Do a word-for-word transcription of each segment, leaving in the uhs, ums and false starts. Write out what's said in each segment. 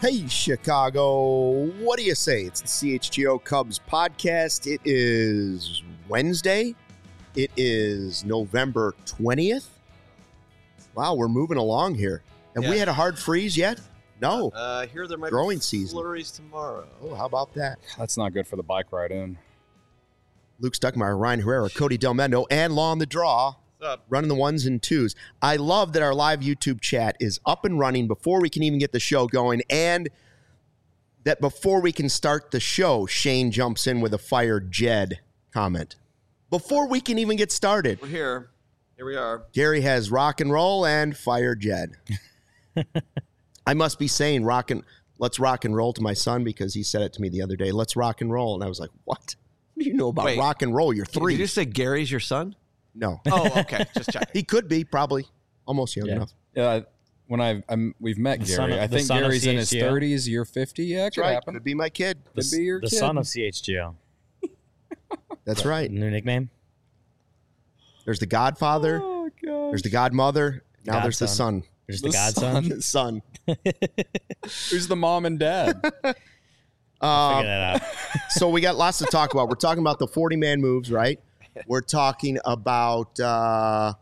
Hey, Chicago. What do you say? It's the C H G O Cubs podcast. It is Wednesday. It is November twentieth. Wow, we're moving along here. Have yeah. we had a hard freeze yet? No. Uh, here there might Growing be season. flurries tomorrow. Oh, how about that? That's not good for the bike ride in. Luke Stuckmeyer, Ryan Herrera, Cody Del Mendo, and Law on the Draw. What's up? Running the ones and twos. I love that our live YouTube chat is up and running before we can even get the show going, and that before we can start the show, Shane jumps in with a fire Jed comment. Before we can even get started. We're here. Here we are. Gary has rock and roll and fire Jed. I must be saying rock and let's rock and roll to my son because he said it to me the other day. Let's rock and roll. And I was like, what? What do you know about Wait, rock and roll? You're three. Did you say Gary's your son? No. Oh, okay. Just check. He could be, probably. Almost young Yeah. enough. Yeah, when I've I'm, we've met The Gary, son of- I the think son of Gary's in his C H G O. thirties. You're fifty. Yeah, it That's could right. happen. Could be my kid. Could be your the kid. son of C H G O. That's right. New nickname? There's the Godfather. Oh gosh. There's the Godmother. Now there's the son. There's The the, godson. The son. Who's the mom and dad? Uh, Figure that out. so we got lots to talk about. We're talking about the forty-man moves, right? We're talking about uh,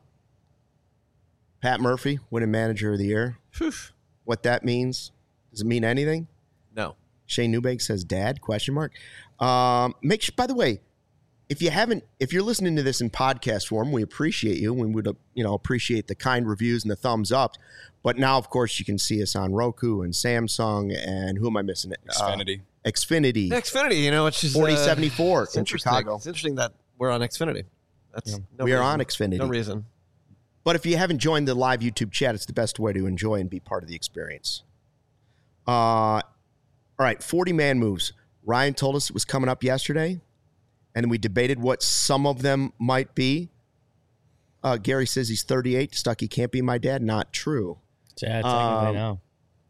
Pat Murphy winning Manager of the Year. Phew. What that means? Does it mean anything? No. Shane Newbank says, "Dad?" Question mark. Um, make sure, by the way, if you haven't, if you're listening to this in podcast form, we appreciate you. We would, uh, you know, appreciate the kind reviews and the thumbs up. But now, of course, you can see us on Roku and Samsung and who am I missing? It Xfinity. Uh, Xfinity. Xfinity, you know, which is forty uh, seventy-four it's in interesting. Chicago. It's interesting that we're on Xfinity. That's Yeah. no we are reason. on Xfinity. No reason. But if you haven't joined the live YouTube chat, it's the best way to enjoy and be part of the experience. Uh, all right, forty-man moves. Ryan told us it was coming up yesterday, and we debated what some of them might be. Uh, Gary says he's thirty-eight. Stucky can't be my dad. Not true. Yeah, technically Um, no.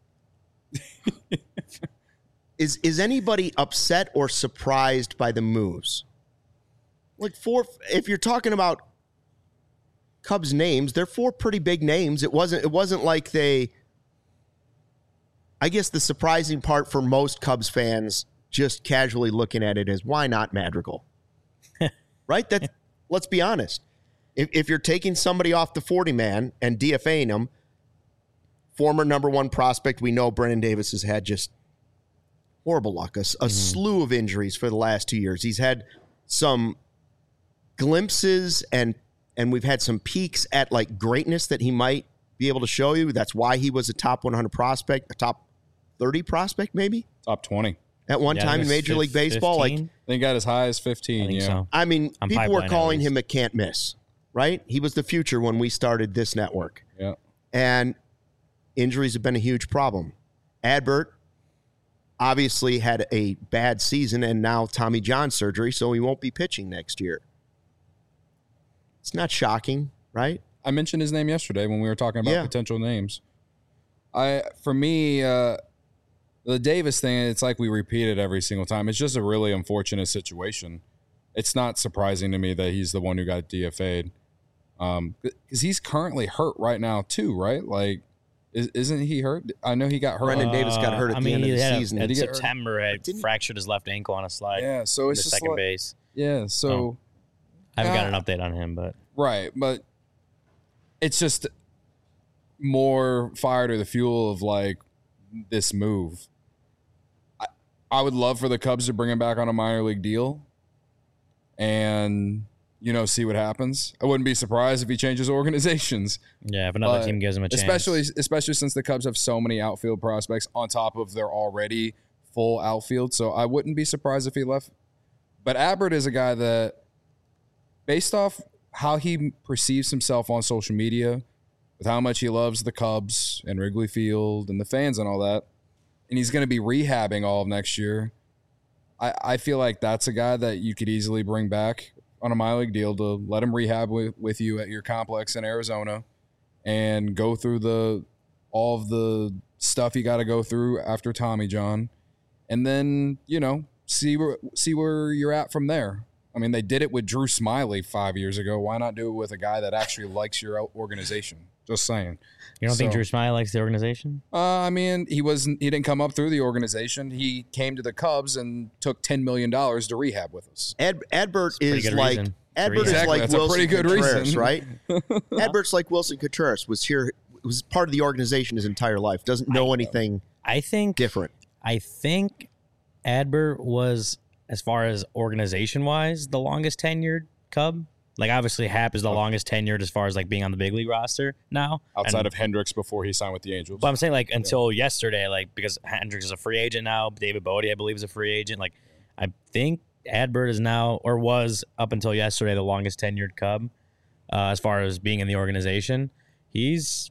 Is is anybody upset or surprised by the moves? Like four, if you're talking about Cubs names, they're four pretty big names. It wasn't it wasn't like they I guess the surprising part for most Cubs fans just casually looking at it is why not Madrigal? Right? That let's be honest. If if you're taking somebody off the forty man and DFAing them, former number one prospect, we know Brennan Davis has had just horrible luck, a, a mm-hmm. slew of injuries for the last two years. He's had some glimpses and and we've had some peaks at like greatness that he might be able to show you. That's why he was a top one hundred prospect, a top thirty prospect maybe Top twenty. at one Yeah, I time think in it's Major League fif- Baseball. fifteen? Like, They got as high as I fifteen. think Yeah. so. I mean, I'm people were pipeline at calling least. him a can't miss, right? He was the future when we started this network. Yeah. And injuries have been a huge problem. Adbert obviously had a bad season and now Tommy John surgery, so he won't be pitching next year. It's not shocking, right? I mentioned his name yesterday when we were talking about Yeah. potential names. I for me, uh, the Davis thing, it's like we repeat it every single time. It's just a really unfortunate situation. It's not surprising to me that he's the one who got D F A'd. Um, because he's currently hurt right now too, right? Like, is, isn't he hurt? I know he got hurt. Brendan Davis got hurt at I the mean, end of he the had a- season. In Did he get hurt? September, had Didn't- fractured his left ankle on a slide. Yeah, so in it's the just second like- base. Yeah, so Oh. I haven't Uh, got an update on him, but right, but it's just more fire to the fuel of like this move. I, I would love for the Cubs to bring him back on a minor league deal and, you know, see what happens. I wouldn't be surprised if he changes organizations. yeah, if another But team gives him a chance, Especially especially since the Cubs have so many outfield prospects on top of their already full outfield. So I wouldn't be surprised if he left. But Adbert is a guy that, based off how he perceives himself on social media, with how much he loves the Cubs and Wrigley Field and the fans and all that, and he's going to be rehabbing all of next year, I, I feel like that's a guy that you could easily bring back on a minor league deal to let him rehab with, with you at your complex in Arizona and go through the all of the stuff you got to go through after Tommy John, and then, you know, see where see where you're at from there. I mean, they did it with Drew Smiley five years ago. Why not do it with a guy that actually likes your organization? Just saying. You don't think So- Drew Smiley likes the organization? Uh, I mean, he wasn't. He didn't come up through the organization. He came to the Cubs and took ten million dollars to rehab with us. Ad, Adbert pretty is good like reason. Adbert is Exactly, like that's a Wilson pretty good Contreras, reason. right? Adbert's like Wilson Contreras was here, was part of the organization his entire life. Doesn't know anything I think different. I think Adbert was, as far as organization wise, the longest tenured Cub. Like obviously Hap is the longest tenured as far as like being on the big league roster now. Outside And- of Hendricks before he signed with the Angels. But I'm saying like until yesterday, like because Hendricks is a free agent now, David Bodie I believe is a free agent. Like I think Adbert is now or was up until yesterday the longest tenured Cub uh, as far as being in the organization. He's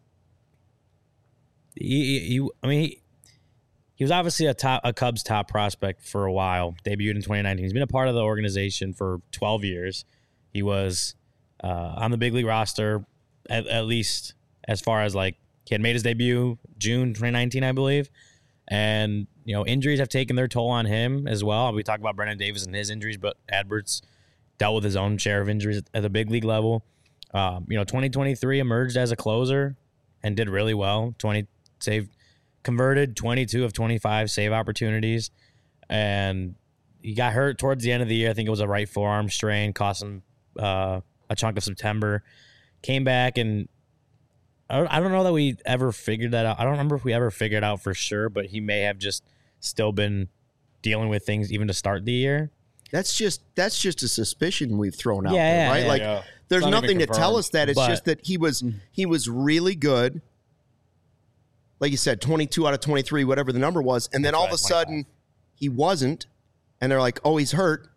he, he, he I mean he, he was obviously a top a Cubs top prospect for a while. Debuted in twenty nineteen. He's been a part of the organization for twelve years. He was uh, on the big league roster at, at least as far as like he had made his debut June twenty nineteen, I believe. And, you know, injuries have taken their toll on him as well. We talk about Brendan Davis and his injuries, but Adbert's dealt with his own share of injuries at the big league level. Um, you know, twenty twenty-three emerged as a closer and did really well. twenty saved, converted twenty-two of twenty-five save opportunities. And he got hurt towards the end of the year. I think it was a right forearm strain, cost him uh, a chunk of September. Came back and I don't, I don't know that we ever figured that out. I don't remember if we ever figured out for sure, but he may have just still been dealing with things even to start the year. That's just that's just a suspicion we've thrown out Yeah, there, yeah, right? yeah. Like Yeah. there's It's not nothing even to tell confirmed. us that. It's But- just that he was he was really good. Like you said, twenty-two out of twenty-three, whatever the number was, and then all of a sudden he wasn't, and they're like, "Oh, he's hurt,"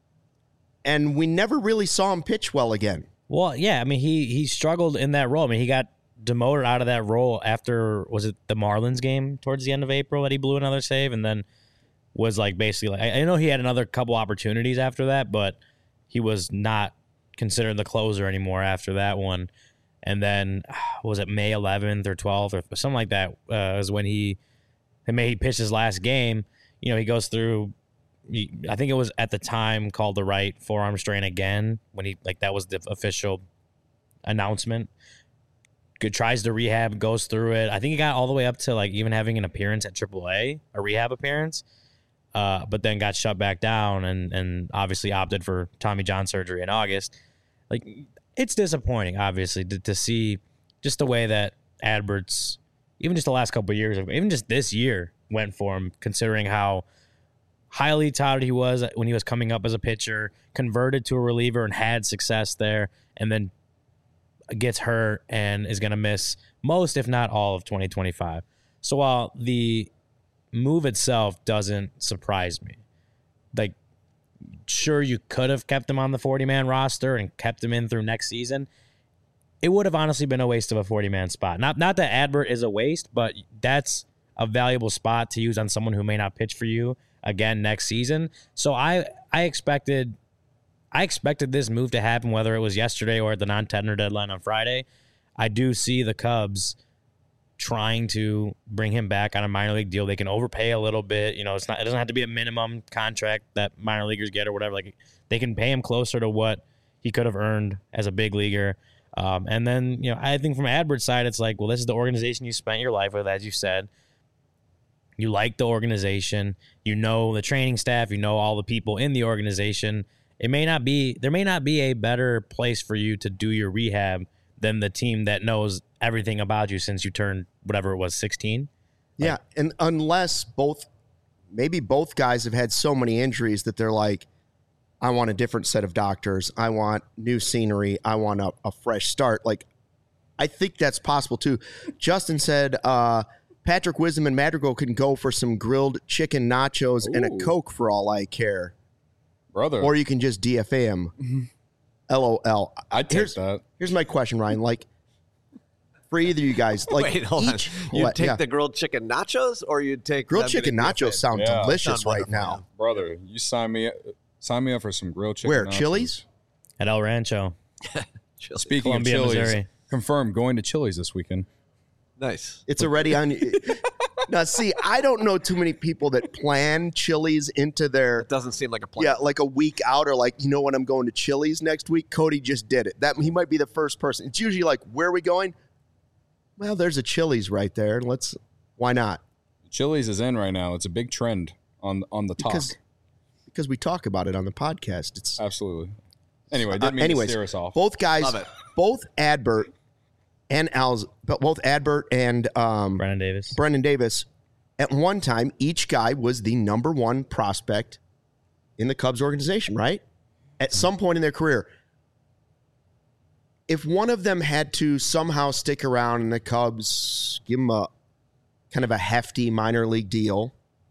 and we never really saw him pitch well again. Well, yeah, I mean, he he struggled in that role. I mean, he got demoted out of that role after, was it the Marlins game towards the end of April that he blew another save, and then was like basically like, I, I know he had another couple opportunities after that, but he was not considered the closer anymore after that one. And then was it May eleventh or twelfth or something like that uh, is when he, I mean, he pitched his last game. You know, he goes through, he, I think it was at the time called the right forearm strain again when he, like that was the official announcement. Good, tries to rehab, goes through it. I think he got all the way up to like even having an appearance at triple A, a rehab appearance, uh, but then got shut back down and and obviously opted for Tommy John surgery in August. Like, it's disappointing, obviously, to, to see just the way that Adbert's, even just the last couple of years, even just this year, went for him, considering how highly touted he was when he was coming up as a pitcher, converted to a reliever and had success there, and then gets hurt and is going to miss most, if not all, of twenty twenty-five. So while the move itself doesn't surprise me, like, sure, you could have kept him on the forty-man roster and kept him in through next season. It would have honestly been a waste of a forty-man spot. Not not that Adbert is a waste, but that's a valuable spot to use on someone who may not pitch for you again next season. So I I expected I expected this move to happen, whether it was yesterday or at the non-tender deadline on Friday. I do see the Cubs trying to bring him back on a minor league deal. They can overpay a little bit. You know, it's not, it doesn't have to be a minimum contract that minor leaguers get or whatever. Like, they can pay him closer to what he could have earned as a big leaguer. Um, and then, you know, I think from Adbert's side, it's like, well, this is the organization you spent your life with, as you said. You like the organization. You know the training staff. You know all the people in the organization. It may not be, there may not be a better place for you to do your rehab than the team that knows everything about you since you turned whatever it was, sixteen. Yeah, Like- and unless both, maybe both guys have had so many injuries that they're like, I want a different set of doctors. I want new scenery. I want a, a fresh start. Like, I think that's possible too. Justin said uh, Patrick Wisdom and Madrigal can go for some grilled chicken nachos and a Ooh. Coke for all I care. Brother. Or you can just D F A him. L O L. I'd take Here's, that. here's my question, Ryan. Like, for either of you guys, like, Wait, hold each, on. You'd what- take yeah. the grilled chicken nachos, or you'd take grilled them chicken to be a nachos fan? sound Yeah. delicious Sound right wonderful, now. Brother, you sign me sign me up for some grilled chicken. Where? nachos. Chili's? At El Rancho, Chili. Speaking Columbia, of Chili's, Missouri. confirmed going to Chili's this weekend. Nice. It's already on. Now, see, I don't know too many people that plan Chili's into their It doesn't seem like a plan. yeah, like a week out, or like, you know what, I'm going to Chili's next week. Cody just did it. That he might be the first person. It's usually like, where are we going? Well, there's a Chili's right there. Let's. Why not? Chili's is in right now. It's a big trend on on the talk. Because because we talk about it on the podcast. It's Absolutely. Anyway, didn't uh, mean anyways, to steer us off. both guys, Love it. both Adbert and Al's, but both Adbert and um, Brennan Davis. Brendan Davis, at one time, each guy was the number one prospect in the Cubs organization, right? At some point in their career. If one of them had to somehow stick around in the Cubs, give them a kind of a hefty minor league deal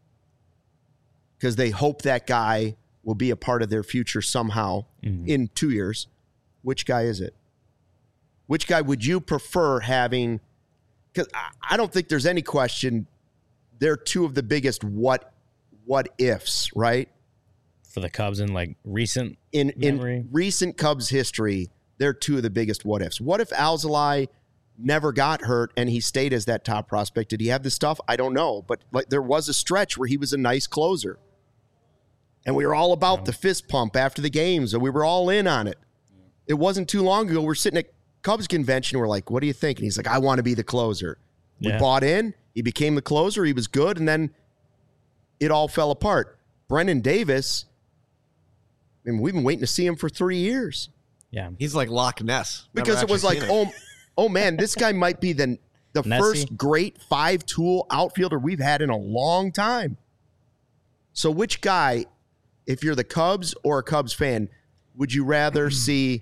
because they hope that guy will be a part of their future somehow Mhm. in two years, which guy is it? Which guy would you prefer having? Because I, I don't think there's any question. They're two of the biggest what what ifs, right? For the Cubs in like recent In memory. in recent Cubs history, they're two of the biggest what ifs. What if Alzolay never got hurt and he stayed as that top prospect? Did he have the stuff? I don't know, but like there was a stretch where he was a nice closer, and we were all about the fist pump after the games, and we were all in on it. It wasn't too long ago. We're sitting at Cubs convention. We're like, "What do you think?" And he's like, "I want to be the closer." We Yeah. bought in. He became the closer. He was good, and then it all fell apart. Brendan Davis. I mean, we've been waiting to see him for three years. Yeah. He's like Loch Ness. Never Because it was actually like, seen it. oh, oh man, this guy might be the the Nessie. first great five-tool outfielder we've had in a long time. So which guy, if you're the Cubs or a Cubs fan, would you rather see?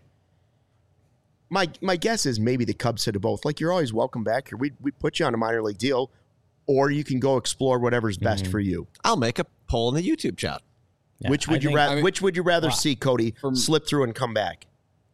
My my guess is maybe the Cubs said to both, like, you're always welcome back here. We we put you on a minor league deal, or you can go explore whatever's best Mhm. for you. I'll make a poll in the YouTube chat. Yeah, which would I you think- rather? I mean- which would you rather Wow. see, Cody, From- slip through and come back?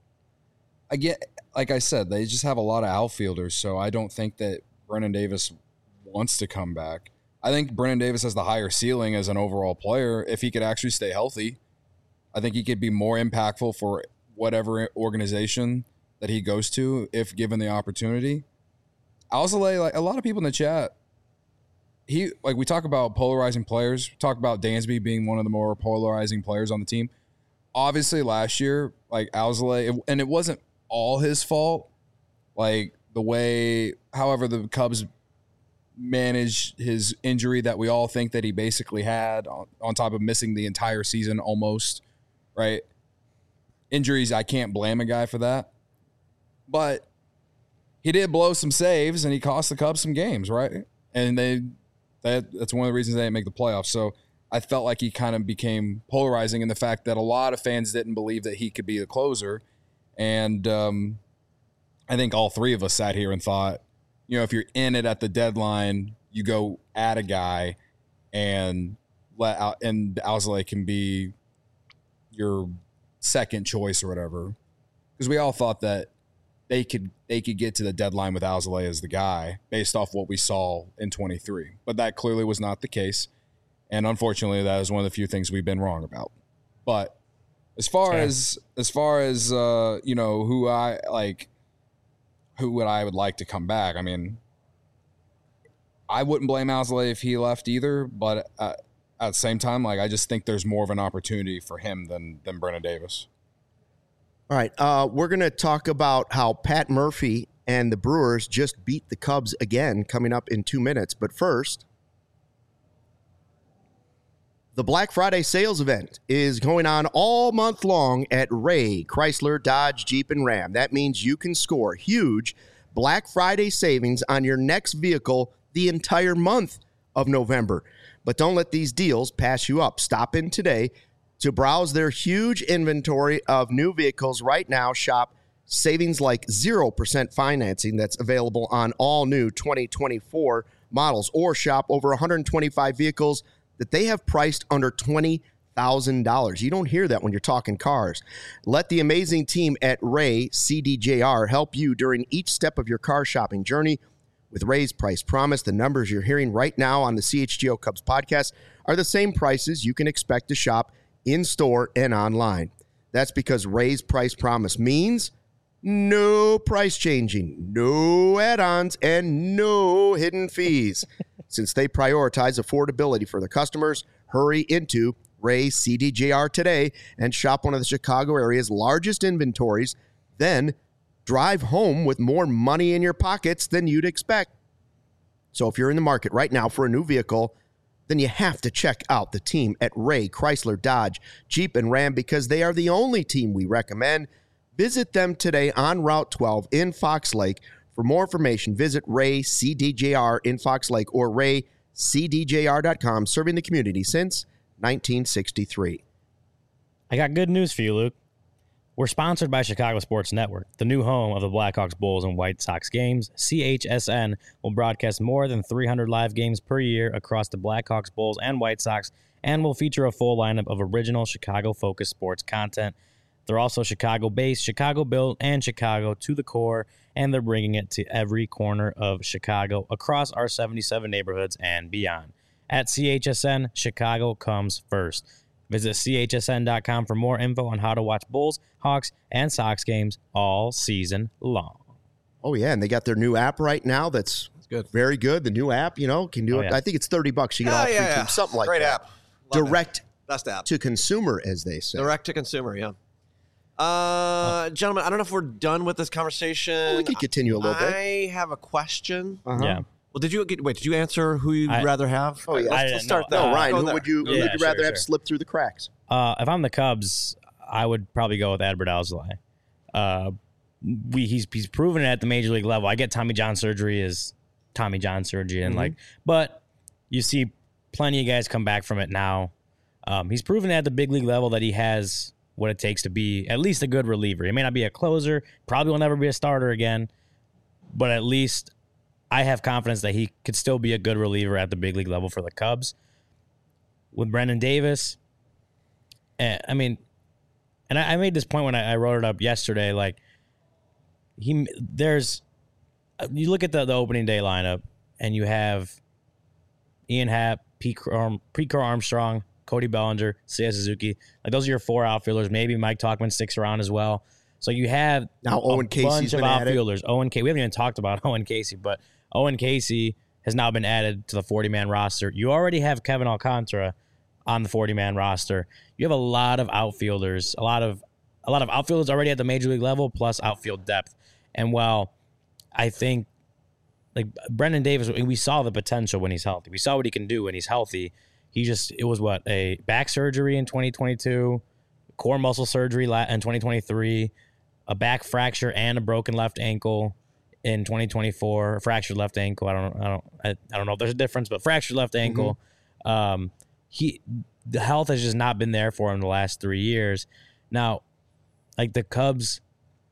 I get, like I said, they just have a lot of outfielders, so I don't think that Brennan Davis wants to come back. I think Brennan Davis has the higher ceiling as an overall player if he could actually stay healthy. I think he could be more impactful for whatever organization that he goes to if given the opportunity. Alzolay, like a lot of people in the chat, he like we talk about polarizing players, talk about Dansby being one of the more polarizing players on the team. Obviously, last year, like Alzolay, it- and it wasn't all his fault. Like the way, however, the Cubs managed his injury that we all think that he basically had, on, on top of missing the entire season almost, right? Injuries, I can't blame a guy for that. But he did blow some saves and he cost the Cubs some games, right? And they that that's one of the reasons they didn't make the playoffs. So I felt like he kind of became polarizing in the fact that a lot of fans didn't believe that he could be the closer. And um, I think all three of us sat here and thought, you know, if you're in it at the deadline, you go at a guy and let out, and Alzolay can be your second choice or whatever. Because we all thought that they could they could get to the deadline with Alzolay as the guy based off what we saw in twenty-three. But that clearly was not the case. And unfortunately, that is one of the few things we've been wrong about. But as far Sure. as as far as uh, you know, who I like who would I would like to come back? I mean, I wouldn't blame Alzolay if he left either, but uh, at the same time, like I just think there's more of an opportunity for him than than Brennan Davis. All right, uh, we're going to talk about how Pat Murphy and the Brewers just beat the Cubs again coming up in two minutes. But first, the Black Friday sales event is going on all month long at Ray Chrysler, Dodge, Jeep, and Ram. That means you can score huge Black Friday savings on your next vehicle the entire month of November. But don't let these deals pass you up. Stop in today to browse their huge inventory of new vehicles. Right now, shop savings like zero percent financing that's available on all new twenty twenty-four models, or shop over one hundred twenty-five vehicles that they have priced under twenty thousand dollars. You don't hear that when you're talking cars. Let the amazing team at Ray C D J R help you during each step of your car shopping journey. With Ray's Price Promise, the numbers you're hearing right now on the C H G O Cubs podcast are the same prices you can expect to shop in-store and online. That's because Ray's Price Promise means no price changing, no add-ons, and no hidden fees. Since they prioritize affordability for their customers, hurry into Ray C D J R today and shop one of the Chicago area's largest inventories. Then drive home with more money in your pockets than you'd expect. So if you're in the market right now for a new vehicle, then you have to check out the team at Ray Chrysler Dodge Jeep and Ram, because they are the only team we recommend. Visit them today on Route twelve in Fox Lake. For more information, visit Ray C D J R in Fox Lake or ray c d j r dot com, serving the community since nineteen sixty-three. I got good news for you, Luke. We're sponsored by Chicago Sports Network, the new home of the Blackhawks, Bulls, and White Sox games. C H S N will broadcast more than three hundred live games per year across the Blackhawks, Bulls, and White Sox, and will feature a full lineup of original Chicago-focused sports content. They're also Chicago-based, Chicago-built, and Chicago to the core, and they're bringing it to every corner of Chicago across our seventy-seven neighborhoods and beyond. At C H S N, Chicago comes first. Visit C H S N dot com for more info on how to watch Bulls, Hawks, and Sox games all season long. Oh, yeah, and they got their new app right now that's, That's good. very good. The new app, you know, can do Oh, it. yeah. I think it's thirty bucks. You get Yeah, all three yeah, yeah. teams, something like Great that. app. Love Direct it. Best app. to consumer, as they say. Direct to consumer, yeah. Uh, gentlemen, I don't know if we're done with this conversation. Well, we could continue a little bit. I have a question. Uh-huh. Yeah. Well, did you get, wait? Did you answer who you'd I- rather have? Oh, yeah. Let's, I let's didn't start know. there. No, Ryan, Go who there. would you, Go who Yeah, would you sure, rather have sure. slip through the cracks? Uh, if I'm the Cubs, I would probably go with Adbert Alzolay. Uh, we he's he's proven it at the major league level. I get Tommy John surgery is Tommy John surgery, and Mhm. like, but you see plenty of guys come back from it now. Um, he's proven at the big league level that he has what it takes to be at least a good reliever. He may not be a closer, probably will never be a starter again, but at least I have confidence that he could still be a good reliever at the big league level for the Cubs. With Brendan Davis, eh, I mean, and I, I made this point when I, I wrote it up yesterday. Like, he, there's, you look at the, the opening day lineup, and you have Ian Happ, Pete Arm, Preco Armstrong, Cody Bellinger, Seiya Suzuki. Like, those are your four outfielders. Maybe Mike Tauchman sticks around as well. So you have Now a Owen Casey's bunch of been added. outfielders. Owen Casey. We haven't even talked about Owen Casey, but Owen Casey has now been added to the forty-man roster. You already have Kevin Alcantara on the forty-man roster. You have a lot of outfielders, a lot of a lot of outfielders already at the major league level, plus outfield depth. And while I think like Brendan Davis, we saw the potential when he's healthy. We saw what he can do when he's healthy. He just it was what a back surgery in twenty twenty-two, core muscle surgery in twenty twenty-three, a back fracture and a broken left ankle in twenty twenty-four, a fractured left ankle. I don't I don't I, I don't know if there's a difference, but fractured left ankle. Mm-hmm. Um, he the health has just not been there for him the last three years. Now, like the Cubs,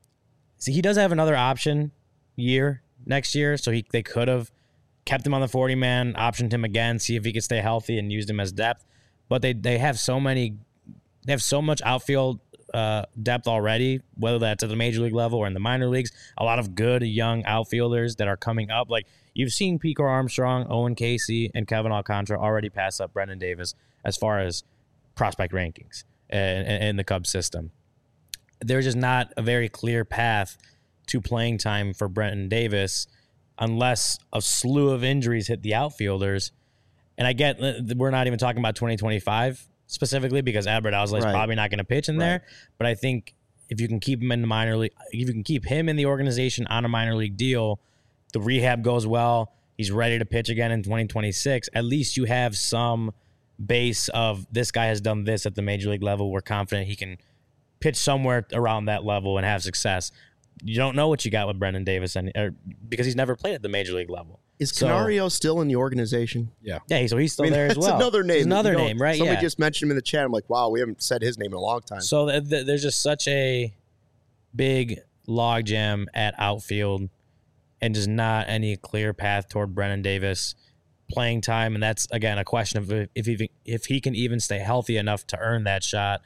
see, he does have another option year next year, so he they could have kept him on the forty-man, optioned him again, see if he could stay healthy and used him as depth. But they they have so many, they have so much outfield uh, depth already, whether that's at the major league level or in the minor leagues. A lot of good young outfielders that are coming up. Like you've seen Pico Armstrong, Owen Casey, and Kevin Alcantara already pass up Brendan Davis as far as prospect rankings in, in the Cubs system. There's just not a very clear path to playing time for Brendan Davis unless a slew of injuries hit the outfielders. And I get we're not even talking about twenty twenty-five specifically because Adbert Alzolay is Right. probably not going to pitch in Right. there. But I think if you can keep him in the minor league, if you can keep him in the organization on a minor league deal, the rehab goes well, he's ready to pitch again in twenty twenty-six, at least you have some base of this guy has done this at the major league level. We're confident he can pitch somewhere around that level and have success. You don't know what you got with Brendan Davis and or, because he's never played at the major league level. Is So- Canario still in the organization? Yeah. Yeah, so he's still I mean, there as that's well. another name. It's another You know, name, right? Somebody Yeah. just mentioned him in the chat. I'm like, wow, we haven't said his name in a long time. So th- th- there's just such a big logjam at outfield and just not any clear path toward Brendan Davis playing time. And that's, again, a question of if he, if he can even stay healthy enough to earn that shot.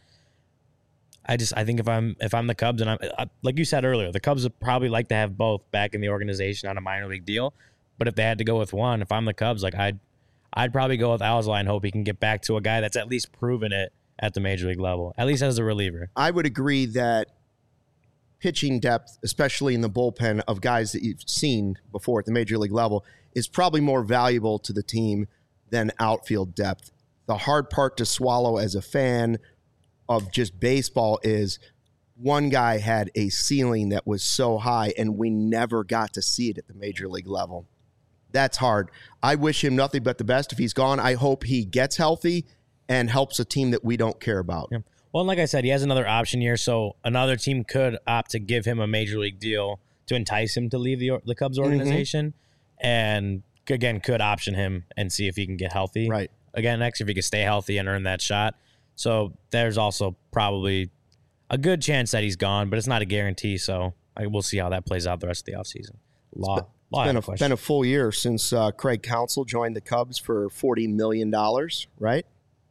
I just I think if I'm if I'm the Cubs and I'm I, like you said earlier, the Cubs would probably like to have both back in the organization on a minor league deal. But if they had to go with one, if I'm the Cubs, like I'd I'd probably go with Alzolay and hope he can get back to a guy that's at least proven it at the major league level, at least as a reliever. I would agree that pitching depth, especially in the bullpen of guys that you've seen before at the major league level, is probably more valuable to the team than outfield depth. The hard part to swallow as a fan of just baseball is one guy had a ceiling that was so high, and we never got to see it at the major league level. That's hard. I wish him nothing but the best. If he's gone, I hope he gets healthy and helps a team that we don't care about. Yeah. Well, like I said, he has another option year, so another team could opt to give him a major league deal to entice him to leave the the Cubs organization, mm-hmm. and again could option him and see if he can get healthy. Right. Again, next if he can stay healthy and earn that shot. So there's also probably a good chance that he's gone, but it's not a guarantee. So I, we'll see how that plays out the rest of the offseason. Law. It's been, it's been, a, been a full year since uh, Craig Counsell joined the Cubs for forty million dollars, right?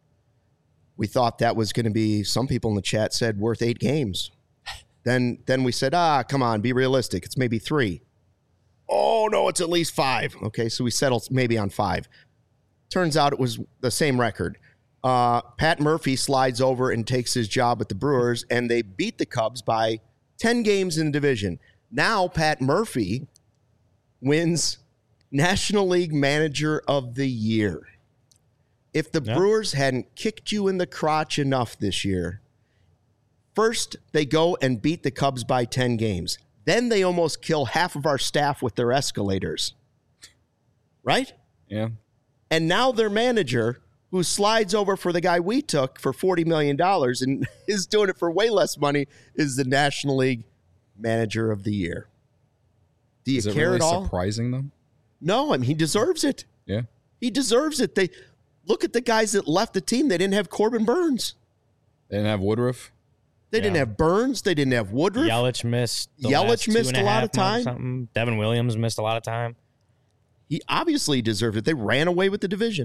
We thought that was going to be, some people in the chat said, worth eight games. Then then we said, ah, come on, be realistic. It's maybe three. Oh, no, it's at least five. Okay, so we settled maybe on five. Turns out it was the same record. Uh, Pat Murphy slides over and takes his job at the Brewers, and they beat the Cubs by ten games in the division. Now Pat Murphy wins National League Manager of the Year. If the yeah. Brewers hadn't kicked you in the crotch enough this year, first they go and beat the Cubs by ten games. Then they almost kill half of our staff with their escalators. Right? Yeah. And now their manager, who slides over for the guy we took for forty million dollars and is doing it for way less money, is the National League Manager of the Year. Do you is it care really at all? Surprising them? No, I mean, he deserves it. Yeah. He deserves it. They look at the guys that left the team. They didn't have Corbin Burns. They didn't have Woodruff. They Yeah. didn't have Burns. They didn't have Woodruff. Yelich missed. The Yelich last two missed and a lot half of time. months or something. Devin Williams missed a lot of time. He obviously deserved it. They ran away with the division.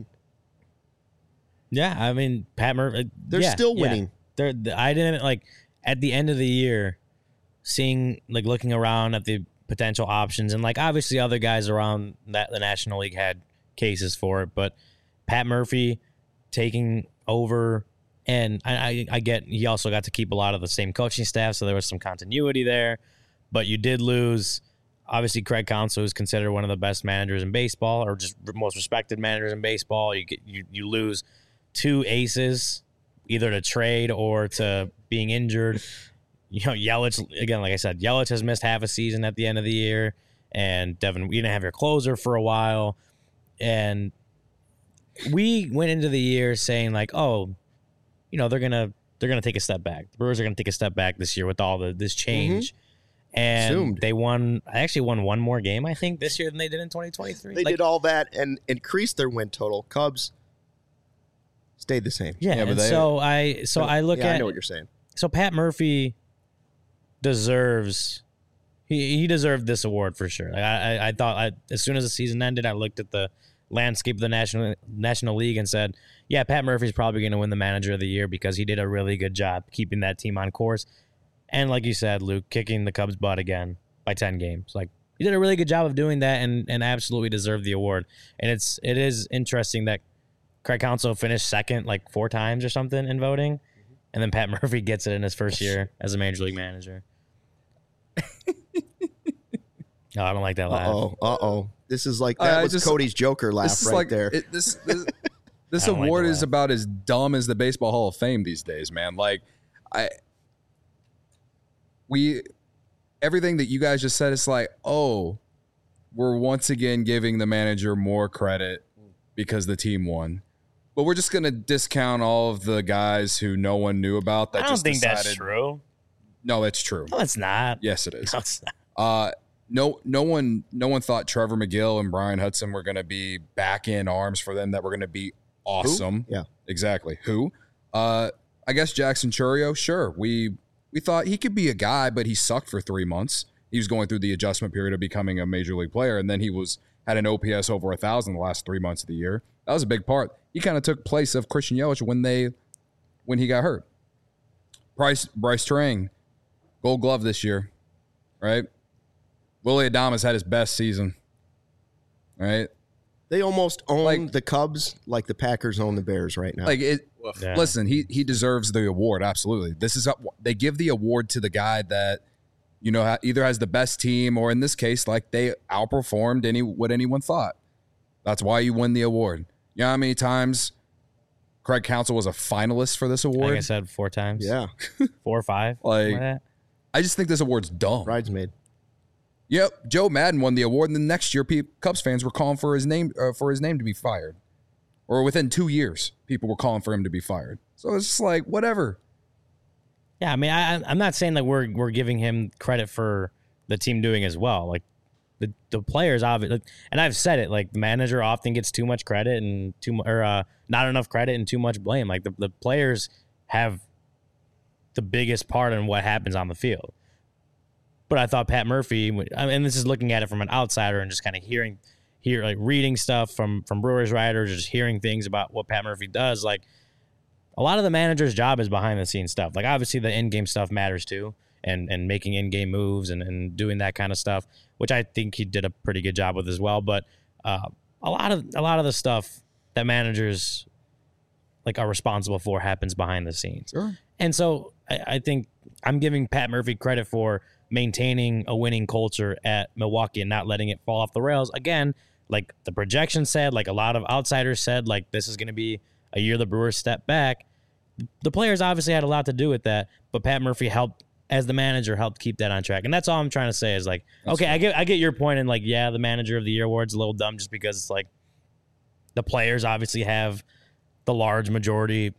Yeah, I mean Pat Murphy. They're yeah, still yeah. winning. They're. I didn't like at the end of the year, seeing like looking around at the potential options and like obviously other guys around that the National League had cases for it, but Pat Murphy taking over, and I, I, I get he also got to keep a lot of the same coaching staff, so there was some continuity there. But you did lose, obviously, Craig Counsell, who's considered one of the best managers in baseball, or just most respected managers in baseball. You get you you lose two aces, either to trade or to being injured. You know, Yelich, again, like I said, Yelich has missed half a season at the end of the year, and Devin, you didn't have your closer for a while, and we went into the year saying like, oh, you know, they're gonna they're gonna take a step back. The Brewers are gonna take a step back this year with all the this change, mm-hmm. and Assumed. they won. I actually won one more game, I think, this year than they did in twenty twenty-three. They like, did all that and increased their win total. Cubs stayed the same. Yeah, Yeah, but and they- so I so I look yeah, at I know what you're saying. so Pat Murphy deserves he he deserved this award for sure. Like I, I I thought I, as soon as the season ended, I looked at the landscape of the national National League and said, yeah, Pat Murphy's probably going to win the Manager of the Year because he did a really good job keeping that team on course. And like you said, Luke, kicking the Cubs' butt again by ten games. Like he did a really good job of doing that and and absolutely deserved the award. And it's it is interesting that Craig Counsell finished second like four times or something in voting. And then Pat Murphy gets it in his first year as a Major League Manager. No, I don't like that laugh. Uh-oh, uh-oh. This is like, that I was just- Cody's Joker laugh This is right like there. It, this this, this I don't like award the is laugh. about as dumb as the Baseball Hall of Fame these days, man. Like I, we, everything that you guys just said, it's like, oh, we're once again giving the manager more credit because the team won. But we're just gonna discount all of the guys who no one knew about. That I don't just think decided, that's true. No, it's true. No, it's not. Yes, it is. No, it's not. Uh, no, no one, no one thought Trevor McGill and Brian Hudson were going to be back in arms for them. That were going to be awesome. Who? Yeah. Exactly. Who? Uh, I guess Jackson Churio. Sure, we we thought he could be a guy, but he sucked for three months. He was going through the adjustment period of becoming a major league player, and then he was had an O P S over a thousand the last three months of the year. That was a big part. He kind of took place of Christian Yelich when they when he got hurt. Bryce Bryce Trang, Gold Glove this year, right? Willie Adames had his best season, right? They almost own Like- the Cubs like the Packers own the Bears right now. Like it. Yeah. Listen, he he deserves the award. Absolutely. This is a, they give the award to the guy that you know, ha- either has the best team or in this case, like they outperformed any what anyone thought. That's why you win the award. You know how many times Craig Counsell was a finalist for this award? Like I said, four times. Yeah. Four or five. Like, something like that. I just think this award's dumb. Bridesmaid. Yep, Joe Madden won the award, and the next year, pe- Cubs fans were calling for his name uh, for his name to be fired, or within two years, people were calling for him to be fired. So it's just like whatever. Yeah, I mean, I, I'm not saying that we're we're giving him credit for the team doing as well. Like the the players, obviously, and I've said it. Like the manager often gets too much credit and too or uh, not enough credit and too much blame. Like the the players have the biggest part in what happens on the field. But I thought Pat Murphy, and this is looking at it from an outsider and just kind of hearing, hear like reading stuff from from Brewers writers, or just hearing things about what Pat Murphy does. Like a lot of the manager's job is behind the scenes stuff. Like obviously the in game stuff matters too, and and making in game moves and, and doing that kind of stuff, which I think he did a pretty good job with as well. But uh, a lot of a lot of the stuff that managers like are responsible for happens behind the scenes. Sure. And so I, I think I'm giving Pat Murphy credit for maintaining a winning culture at Milwaukee and not letting it fall off the rails. Again, like the projection said, like a lot of outsiders said, like this is going to be a year the Brewers step back. The players obviously had a lot to do with that, but Pat Murphy helped, as the manager, helped keep that on track. And that's all I'm trying to say is like, that's okay, fair. I get I get your point, and like, yeah, the manager of the year award's a little dumb just because it's like the players obviously have the large majority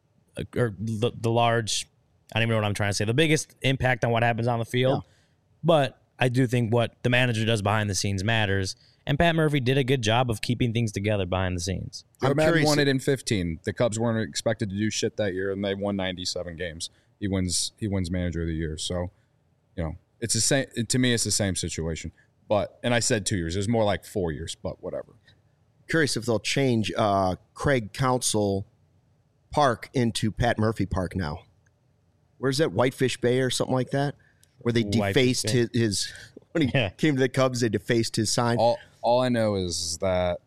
or the, the large I don't even know what I'm trying to say. The biggest impact on what happens on the field. Yeah. But I do think what the manager does behind the scenes matters. And Pat Murphy did a good job of keeping things together behind the scenes. Joe Madden won it in fifteen. The Cubs weren't expected to do shit that year, and they won ninety-seven games. He wins. He wins Manager of the Year. So, you know, it's the same. To me, it's the same situation. But and I said two years. It was more like four years. But whatever. Curious if they'll change uh, Craig Counsell Park into Pat Murphy Park now. Where's that, Whitefish Bay or something like that, where they defaced his, his when he yeah. came to the Cubs, they defaced his sign. All, all I know is that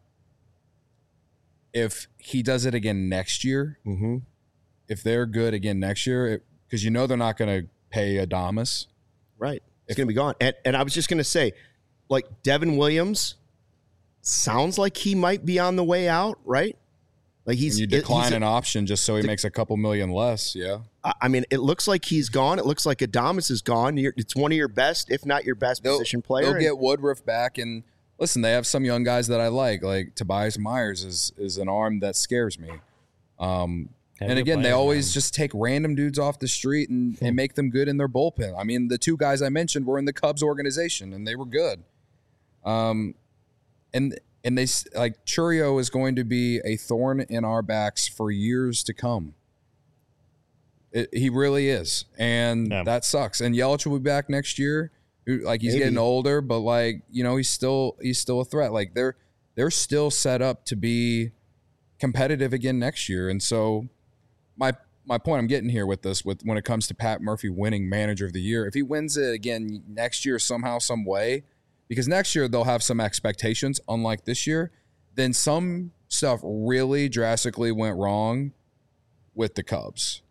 if he does it again next year, mm-hmm. if they're good again next year, because you know they're not going to pay Adames. Right. It's going to be gone. And, and I was just going to say, like, Devin Williams sounds like he might be on the way out, right? Like he's and you decline he's an a, option just so he de- makes a couple million less, yeah. I mean, it looks like he's gone. It looks like Adames is gone. You're, it's one of your best, if not your best, they'll, position player. They'll get Woodruff back, and listen, they have some young guys that I like. Like Tobias Myers is is an arm that scares me. Um, and again, player, they always man. just take random dudes off the street and, and make them good in their bullpen. I mean, the two guys I mentioned were in the Cubs organization, and they were good. Um, and. And they like Chourio is going to be a thorn in our backs for years to come. It, he really is, and yeah. that sucks. And Yelich will be back next year. Like he's Maybe. getting older, but like you know, he's still he's still a threat. Like they're they're still set up to be competitive again next year. And so my my point I'm getting here with this, with when it comes to Pat Murphy winning Manager of the Year, if he wins it again next year somehow, some way. Because next year they'll have some expectations, unlike this year. Then some stuff really drastically went wrong with the Cubs.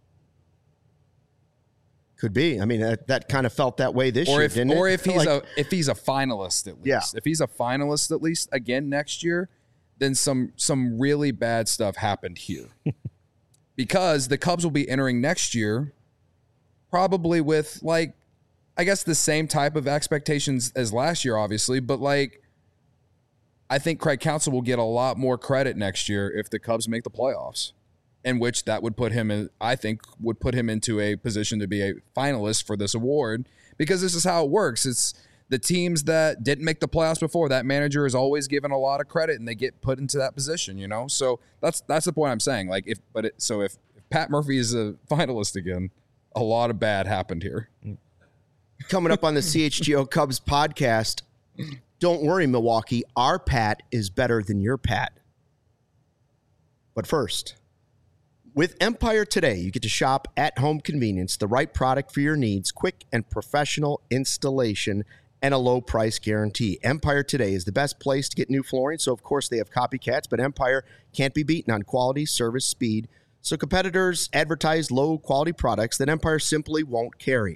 Could be. I mean, that, that kind of felt that way this or year, if, didn't or it? Or if he's like, a if he's a finalist at least. Yeah. If he's a finalist at least again next year, then some some really bad stuff happened here. Because the Cubs will be entering next year probably with like I guess the same type of expectations as last year, obviously, but like I think Craig Counsell will get a lot more credit next year if the Cubs make the playoffs, in which that would put him in, I think would put him into a position to be a finalist for this award, because this is how it works. It's the teams that didn't make the playoffs before, that manager is always given a lot of credit and they get put into that position, you know? So that's that's the point I'm saying. Like if but it, so if, if Pat Murphy is a finalist again, a lot of bad happened here. Coming up on the C H G O Cubs podcast, don't worry, Milwaukee, our Pat is better than your Pat. But first, with Empire Today, you get to shop at home convenience, the right product for your needs, quick and professional installation, and a low price guarantee. Empire Today is the best place to get new flooring, so of course they have copycats, but Empire can't be beaten on quality, service, speed. So competitors advertise low quality products that Empire simply won't carry.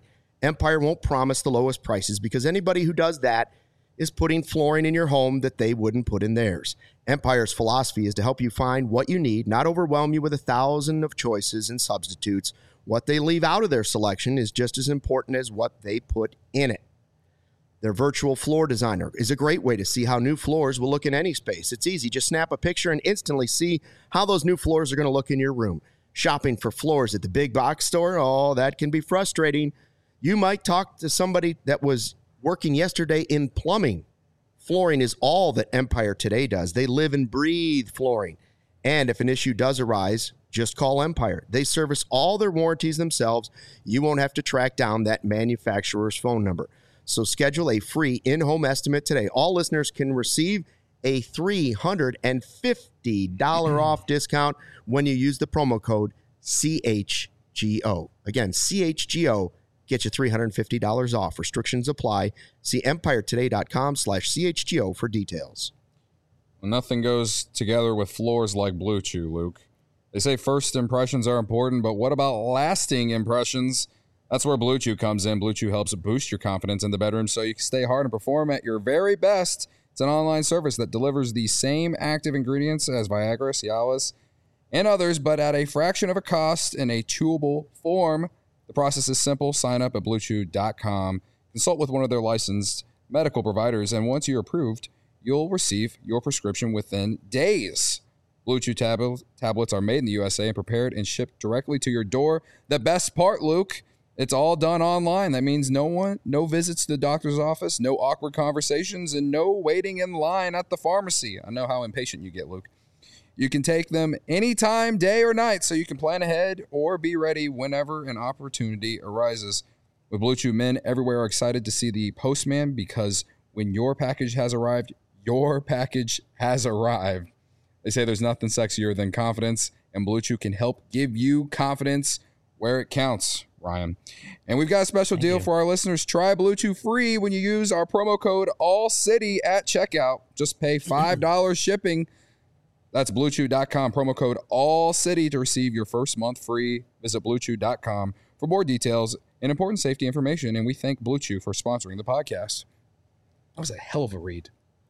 Empire won't promise the lowest prices because anybody who does that is putting flooring in your home that they wouldn't put in theirs. Empire's philosophy is to help you find what you need, not overwhelm you with a thousand of choices and substitutes. What they leave out of their selection is just as important as what they put in it. Their virtual floor designer is a great way to see how new floors will look in any space. It's easy. Just snap a picture and instantly see how those new floors are going to look in your room. Shopping for floors at the big box store, oh, that can be frustrating. You might talk to somebody that was working yesterday in plumbing. Flooring is all that Empire today does. They live and breathe flooring. And if an issue does arise, just call Empire. They service all their warranties themselves. You won't have to track down that manufacturer's phone number. So schedule a free in-home estimate today. All listeners can receive a three hundred fifty dollars off discount when you use the promo code C H G O. Again, C H G O. Get you three hundred fifty dollars off. Restrictions apply. See empiretoday.com slash CHGO for details. Well, nothing goes together with floors like Blue Chew, Luke. They say first impressions are important, but what about lasting impressions? That's where Blue Chew comes in. Blue Chew helps boost your confidence in the bedroom so you can stay hard and perform at your very best. It's an online service that delivers the same active ingredients as Viagra, Cialis, and others, but at a fraction of a cost in a chewable form. The process is simple. Sign up at blue chew dot com. Consult with one of their licensed medical providers, and once you're approved, you'll receive your prescription within days. Blue Chew tab- tablets are made in the U S A and prepared and shipped directly to your door. The best part, Luke, it's all done online. That means no one, no visits to the doctor's office, no awkward conversations, and no waiting in line at the pharmacy. I know how impatient you get, Luke. You can take them anytime, day or night, so you can plan ahead or be ready whenever an opportunity arises. With Blue Chew, men everywhere are excited to see the postman because when your package has arrived, your package has arrived. They say there's nothing sexier than confidence, and Blue Chew can help give you confidence where it counts, Ryan. And we've got a special Thank deal you. for our listeners. Try Blue Chew free when you use our promo code ALLCITY at checkout. Just pay five dollars shipping. That's blue chew dot com, promo code ALLCITY to receive your first month free. Visit blue chew dot com for more details and important safety information. And we thank Blue Chew for sponsoring the podcast. That was a hell of a read.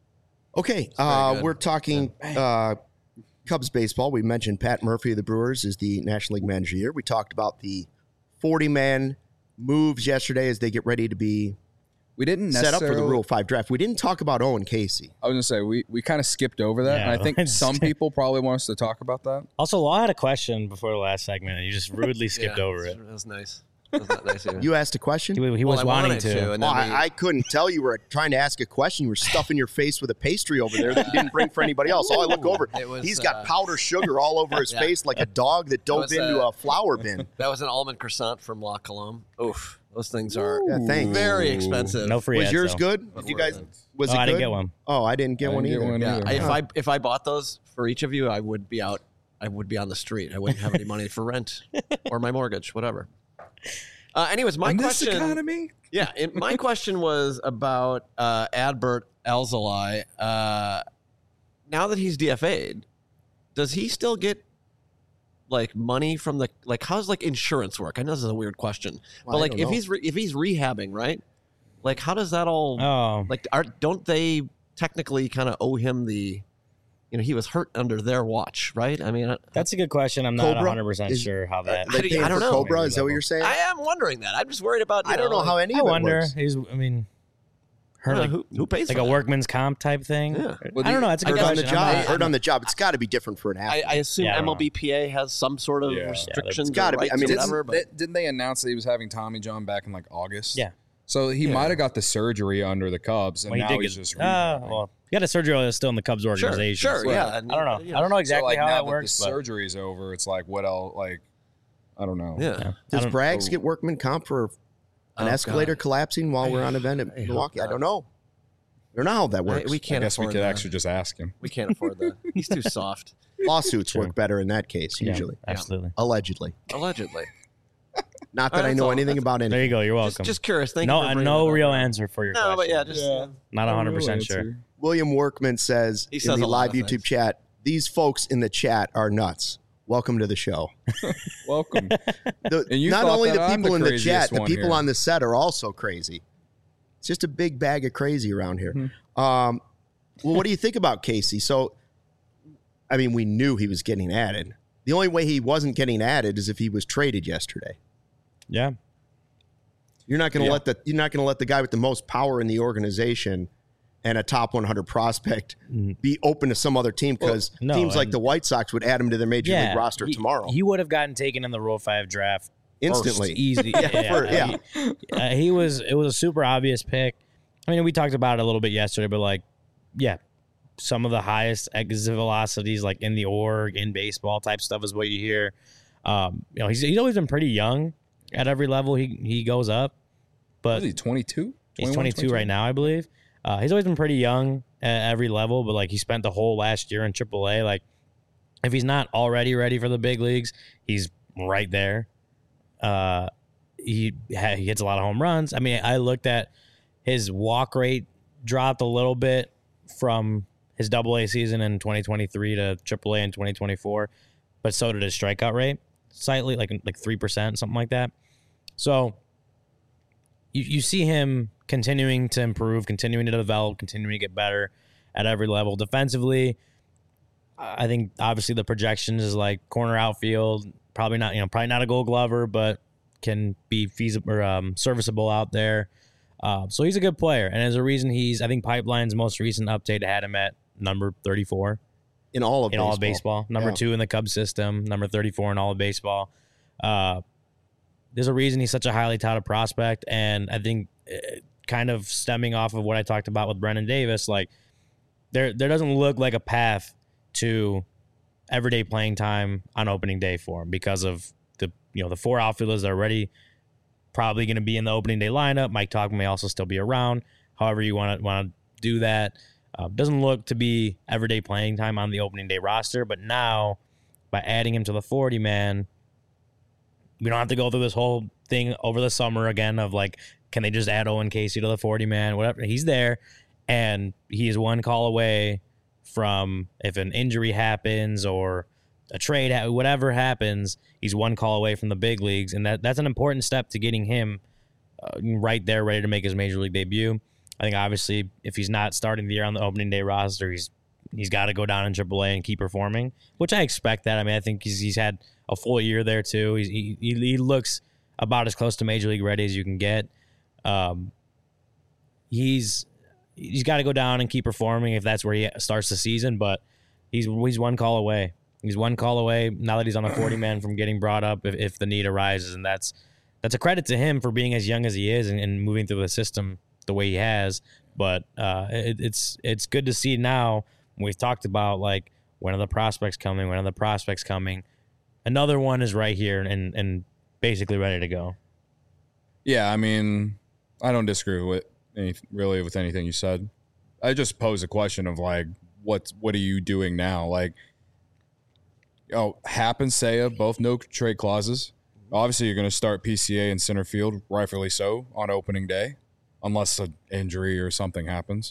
Okay, very uh, good. we're talking uh, Cubs baseball. We mentioned Pat Murphy of the Brewers is the National League Manager of the Year. We talked about the forty-man moves yesterday as they get ready to be We didn't set up for the necessarily- Rule five draft. We didn't talk about Owen Casey. I was going to say, we, we kind of skipped over that. Yeah, and I think let's- some people probably want us to talk about that. Also, Law had a question before the last segment, and you just rudely skipped Yeah, over it. That was nice. That was not nice of you. You asked a question? He, he Well, was I wanting wanted to. and Oh, then we- I, I couldn't tell you were trying to ask a question. You were stuffing your face with a pastry over there that you didn't bring for anybody else. Oh, I look over. It was, He's got uh, powdered sugar all over his yeah. face like a dog that dove was, into uh, a flour bin. That was an almond croissant from La Colombe. Oof. Those things are Yeah, thanks. very expensive. No free Was ads, yours though. good? Did you guys? Was Oh, it I didn't good? get one. Oh, I didn't get I one didn't either. get one Yeah, either. I, if Huh. I if I bought those for each of you, I would be out. I would be on the street. I wouldn't have any money for rent or my mortgage, whatever. Uh, anyways, my In this question. economy? Yeah, it, my question was about uh, Adbert Alzolay. Uh, now that he's D F A'd, does he still get like money from the like? How's like insurance work? I know this is a weird question, Well, but I like don't if know. he's re- if he's rehabbing, right? Like, how does that all Oh, like? Are, don't they technically kind of owe him the? You know, he was hurt under their watch, right? I mean, I, that's a good question. I'm not Cobra? one hundred percent Is- sure how that. They I don't- paying I don't for know. Cobra? Is that what you're saying? I am wondering that. I'm just worried about. You I don't know like, how any I of it wonder. works. He's. I mean, I her don't like, know, who, who pays like for a that? workman's comp type thing. Yeah. Well, I don't know. That's a I good guess on the question. job. I'm not- Hurt on the job. It's got to be different for an I, athlete. I assume Yeah, I don't know. M L B P A has some sort of Yeah. restrictions. It's gotta or be. I rights mean, or it's- whatever. But Didn't, didn't they announce that he was having Tommy John back in like August? Yeah. So he Yeah. might have got the surgery under the Cubs, and Well, he now did he's get- just. uh, rehabbing. well, he got a surgery while he was still in the Cubs sure, organization. sure, so- yeah. and, I don't know. you I don't know So, exactly like, how now that that works. the but, surgery's over, it's like what else? Like, I don't know. Yeah. yeah. I Does don't- Braggs get workman comp for an Oh, escalator God. collapsing while we're on event I at hope Milwaukee? I not. don't know. I don't know how that I- works. we I can't guess we afford could that. actually just ask him. We can't afford that. He's too soft. Lawsuits True. work better in that case, yeah, usually. absolutely. Allegedly. Allegedly. Not All that right, I that's know all. anything That's- about There anything. you go. You're Just, welcome. just curious. Thank no, you. for bringing no it up. real answer for your No, question. but yeah, just Yeah. uh, Not one hundred percent sure. answer. William Workman says He in says the a lot live of YouTube things. chat, these folks in the chat are nuts. welcome to the show. Welcome. The, And you not thought only that the I'm people the in the craziest chat, the one people here. on the set are also crazy. It's just a big bag of crazy around here. Mm-hmm. Um, well, what do you think about Casey? So, I mean, we knew he was getting added. The only way he wasn't getting added is if he was traded yesterday. Yeah. You're not going to Yeah. let the you're not going to let the guy with the most power in the organization and a top one hundred prospect be open to some other team because no, teams like and- the White Sox would add him to their major Yeah. league roster he, tomorrow He would have gotten taken in the Rule five draft instantly. first, easy. Yeah, for- yeah. He, uh, he was. It was a super obvious pick. I mean, we talked about it a little bit yesterday, but like, yeah, some of the highest exit velocities, like in the org, in baseball type stuff, is what you hear. Um, you know, he's he's always been pretty young at every level he he goes up, but Is he twenty-two? he's twenty-two right now, I believe. Uh, he's always been pretty young at every level, but like he spent the whole last year in triple A. Like, if he's not already ready for the big leagues, he's right there. Uh, he ha- he hits a lot of home runs. I mean, I looked at his walk rate dropped a little bit from his double A season in twenty twenty-three to triple A in twenty twenty-four, but so did his strikeout rate slightly, like like three percent, something like that. So you you see him continuing to improve, continuing to develop, continuing to get better at every level. Defensively, I think obviously the projections is like corner outfield, probably not, you know, probably not a Gold Glover, but can be feasible or um, serviceable out there. Uh, so he's a good player, and as a reason, he's I think Pipeline's most recent update had him at number thirty-four in all of in baseball. all of baseball, number Yeah. two in the Cubs system, number thirty-four in all of baseball. Uh, there's a reason he's such a highly touted prospect, and I think uh, kind of stemming off of what I talked about with Brennan Davis, like there there doesn't look like a path to everyday playing time on opening day for him because of the you know the four outfielders that are already probably going to be in the opening day lineup. Mike Talk may also still be around. However you want to want to do that, uh, doesn't look to be everyday playing time on the opening day roster. But now, by adding him to the forty man, we don't have to go through this whole thing over the summer again of like, can they just add Owen Casey to the forty man? Whatever. He's there, and he is one call away from if an injury happens or a trade, whatever happens, he's one call away from the big leagues, and that that's an important step to getting him uh, right there, ready to make his major league debut. I think obviously if he's not starting the year on the opening day roster, he's he's got to go down in triple A and keep performing, which I expect that. I mean, I think he's he's had a full year there too. He's, he he looks about as close to major league ready as you can get. Um, he's he's got to go down and keep performing if that's where he starts the season, but he's he's one call away. He's one call away now that he's on a forty man from getting brought up if, if the need arises, and that's that's a credit to him for being as young as he is and, and moving through the system the way he has. But uh, it, it's it's good to see now. We've talked about like when are the prospects coming, when are the prospects coming. Another one is right here and and basically ready to go. Yeah, I mean, I don't disagree with any, really with anything you said. I just pose a question of like, what what are you doing now? Like, oh, Happ and Seiya, both no trade clauses. Obviously, you're going to start P C A in center field, rightfully so, on opening day, unless an injury or something happens.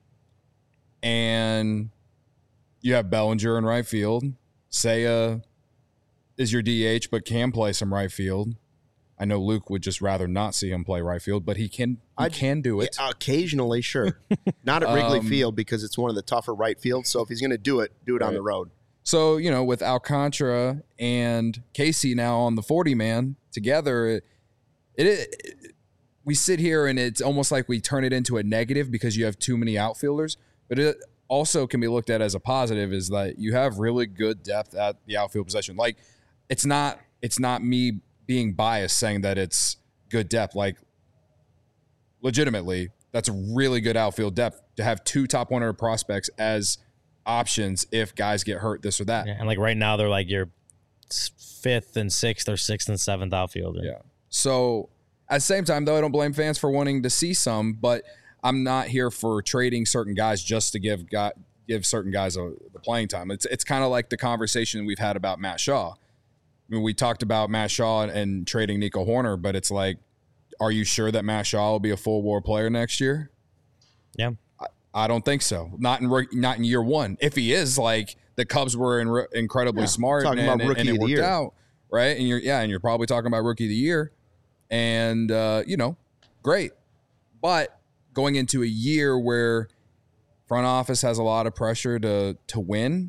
And you have Bellinger in right field. Seiya is your D H, but can play some right field. I know Luke would just rather not see him play right field, but he can he I- can do it. Yeah, occasionally, sure. Not at Wrigley Um, Field because it's one of the tougher right fields. So if he's going to do it, do it on Right. the road. So, you know, with Alcantara and Casey now on the forty man together, it, it, it we sit here and it's almost like we turn it into a negative because you have too many outfielders, but it also can be looked at as a positive is that you have really good depth at the outfield position. Like it's not it's not me being biased saying that it's good depth. Like legitimately, that's a really good outfield depth to have two top one hundred prospects as options if guys get hurt, this or that. Yeah, and like right now they're like your fifth and sixth or sixth and seventh outfielder. Yeah. So at the same time, though, I don't blame fans for wanting to see some, but I'm not here for trading certain guys just to give guy, give certain guys a, the playing time. It's it's kind of like the conversation we've had about Matt Shaw. I mean, we talked about Matt Shaw and, and trading Nico Horner, but it's like, are you sure that Matt Shaw will be a full WAR player next year? Yeah. I don't think so. Not in not in year one. If he is, like the Cubs were in, incredibly Yeah, smart talking and, about and, rookie and it of the worked year. out, right? And you're yeah, and you're probably talking about rookie of the year, and uh, you know, great. But going into a year where front office has a lot of pressure to to win,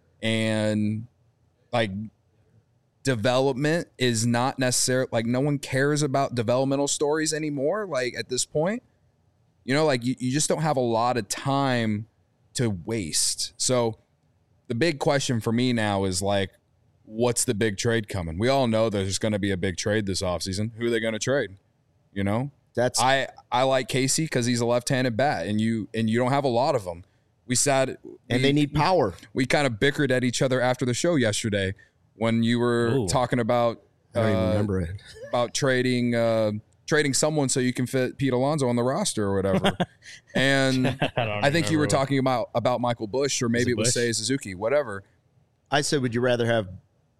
and like development is not necessarily like no one cares about developmental stories anymore. Like at this point, you know, like you, you just don't have a lot of time to waste. So the big question for me now is like, what's the big trade coming? We all know there's going to be a big trade this offseason. Who are they going to trade? You know, That's I, I like Casey because he's a left-handed bat, and you and you don't have a lot of them. We sat and we, they need power. We kind of bickered at each other after the show yesterday when you were Ooh. talking about I don't even uh, remember it. about trading uh, trading someone so you can fit Pete Alonso on the roster or whatever. And I, don't I think you were remember. talking about about Michael Busch, or maybe it it was Busch? Seiya Suzuki, whatever. I said, would you rather have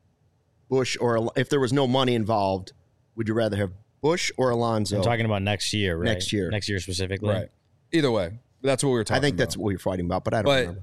Bush or Al- if there was no money involved, would you rather have Bush or Alonso? I'm talking about next year, right? Next year. Next year specifically. Right. Either way, that's what we were talking I think about. that's what you're fighting about, but I don't But- remember.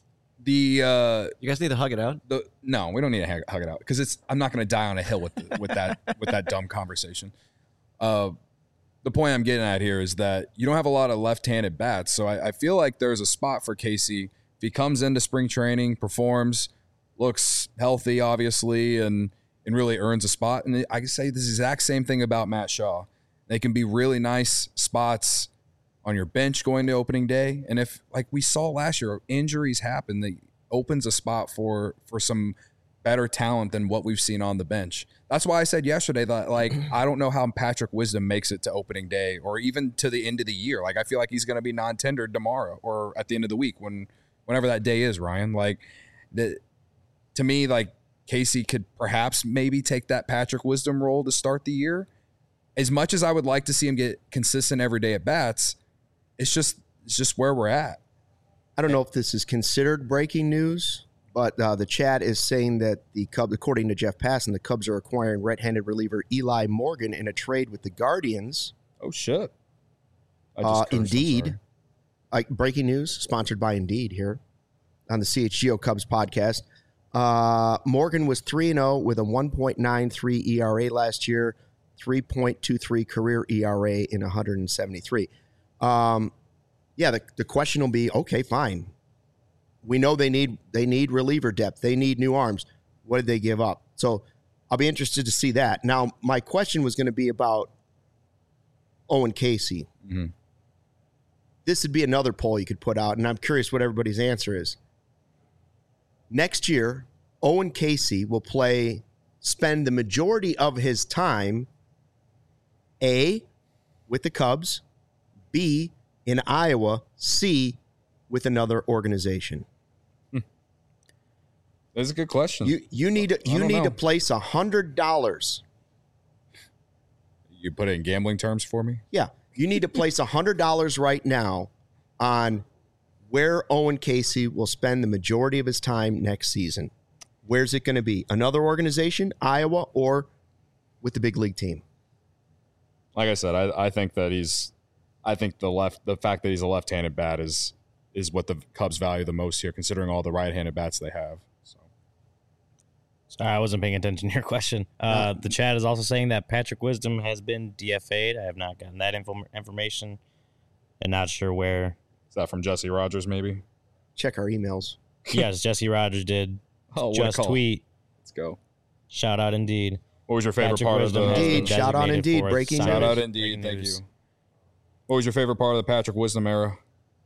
the uh, You guys need to hug it out. the no, we don't need to hug, hug it out because it's. I'm not going to die on a hill with the, with that with that dumb conversation. Uh, the point I'm getting at here is that you don't have a lot of left-handed bats, so I, I feel like there's a spot for Casey if he comes into spring training, performs, looks healthy, obviously, and and really earns a spot. And I can say this exact same thing about Matt Shaw. They can be really nice spots on your bench going to opening day. And if, like we saw last year, injuries happen, that opens a spot for for some better talent than what we've seen on the bench. That's why I said yesterday that, like, I don't know how Patrick Wisdom makes it to opening day or even to the end of the year. Like, I feel like he's going to be non-tendered tomorrow or at the end of the week when whenever that day is, Ryan. Like, the, to me, like, Casey could perhaps maybe take that Patrick Wisdom role to start the year. As much as I would like to see him get consistent every day at bats, it's just it's just where we're at. I don't know if this is considered breaking news, but uh, the chat is saying that the Cubs, according to Jeff Passan, the Cubs are acquiring right-handed reliever Eli Morgan in a trade with the Guardians. Oh, shit. I Uh, cursed, I'm Indeed. sorry. Like breaking news, sponsored by Indeed here on the C H G O Cubs podcast. Uh, Morgan was three and oh with a one point nine three E R A last year, three point two three career E R A in one hundred seventy-three. Um, yeah, the, the question will be, okay, fine. We know they need they need reliever depth. They need new arms. What did they give up? So I'll be interested to see that. Now, my question was going to be about Owen Casey. Mhm. This would be another poll you could put out, and I'm curious what everybody's answer is. Next year, Owen Casey will play, spend the majority of his time, A, with the Cubs, B, in Iowa, C, with another organization. That's a good question. You you need to, you don't need know. to place one hundred dollars. You put it in gambling terms for me? Yeah, you need to place one hundred dollars right now on where Owen Casey will spend the majority of his time next season. Where's it going to be? Another organization, Iowa, or with the big league team? Like I said, I, I think that he's I think the left the fact that he's a left-handed bat is is what the Cubs value the most here, considering all the right-handed bats they have. So Sorry, I wasn't paying attention to your question. Uh, the chat is also saying that Patrick Wisdom has been D F A'd. I have not gotten that info- information and not sure where. is that from Jesse Rogers, maybe? Check our emails. Yes, Jesse Rogers did Oh, what a just call. tweet. Let's go. Shout out Indeed. What was your favorite Patrick part Wisdom of has the been Indeed, shout out designated Indeed, for breaking Shout news. out Indeed, Breaking thank news. you. What was your favorite part of the Patrick Wisdom era?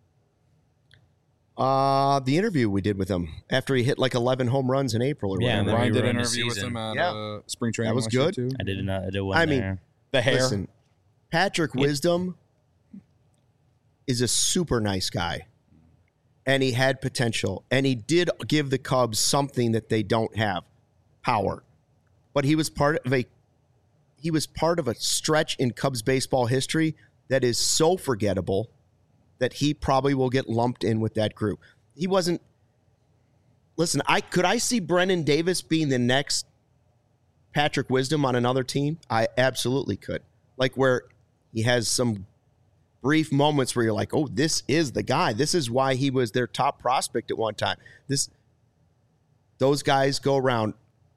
Uh, the interview we did with him after he hit like eleven home runs in April or Yeah, and whatever. then Ryan we did were an in the interview with season. him at Yeah. uh, spring training. That was last year, good. too. I did not. I did one I mean, there. The hair. Listen, Patrick Wisdom is a super nice guy, and he had potential, and he did give the Cubs something that they don't have, power. But he was part of a he was part of a stretch in Cubs baseball history that is so forgettable that he probably will get lumped in with that group. He wasn't. Listen, I could I see Brennan Davis being the next Patrick Wisdom on another team? I absolutely could. Like where he has some brief moments where you're like, oh, this is the guy. This is why he was their top prospect at one time. This, those guys go around.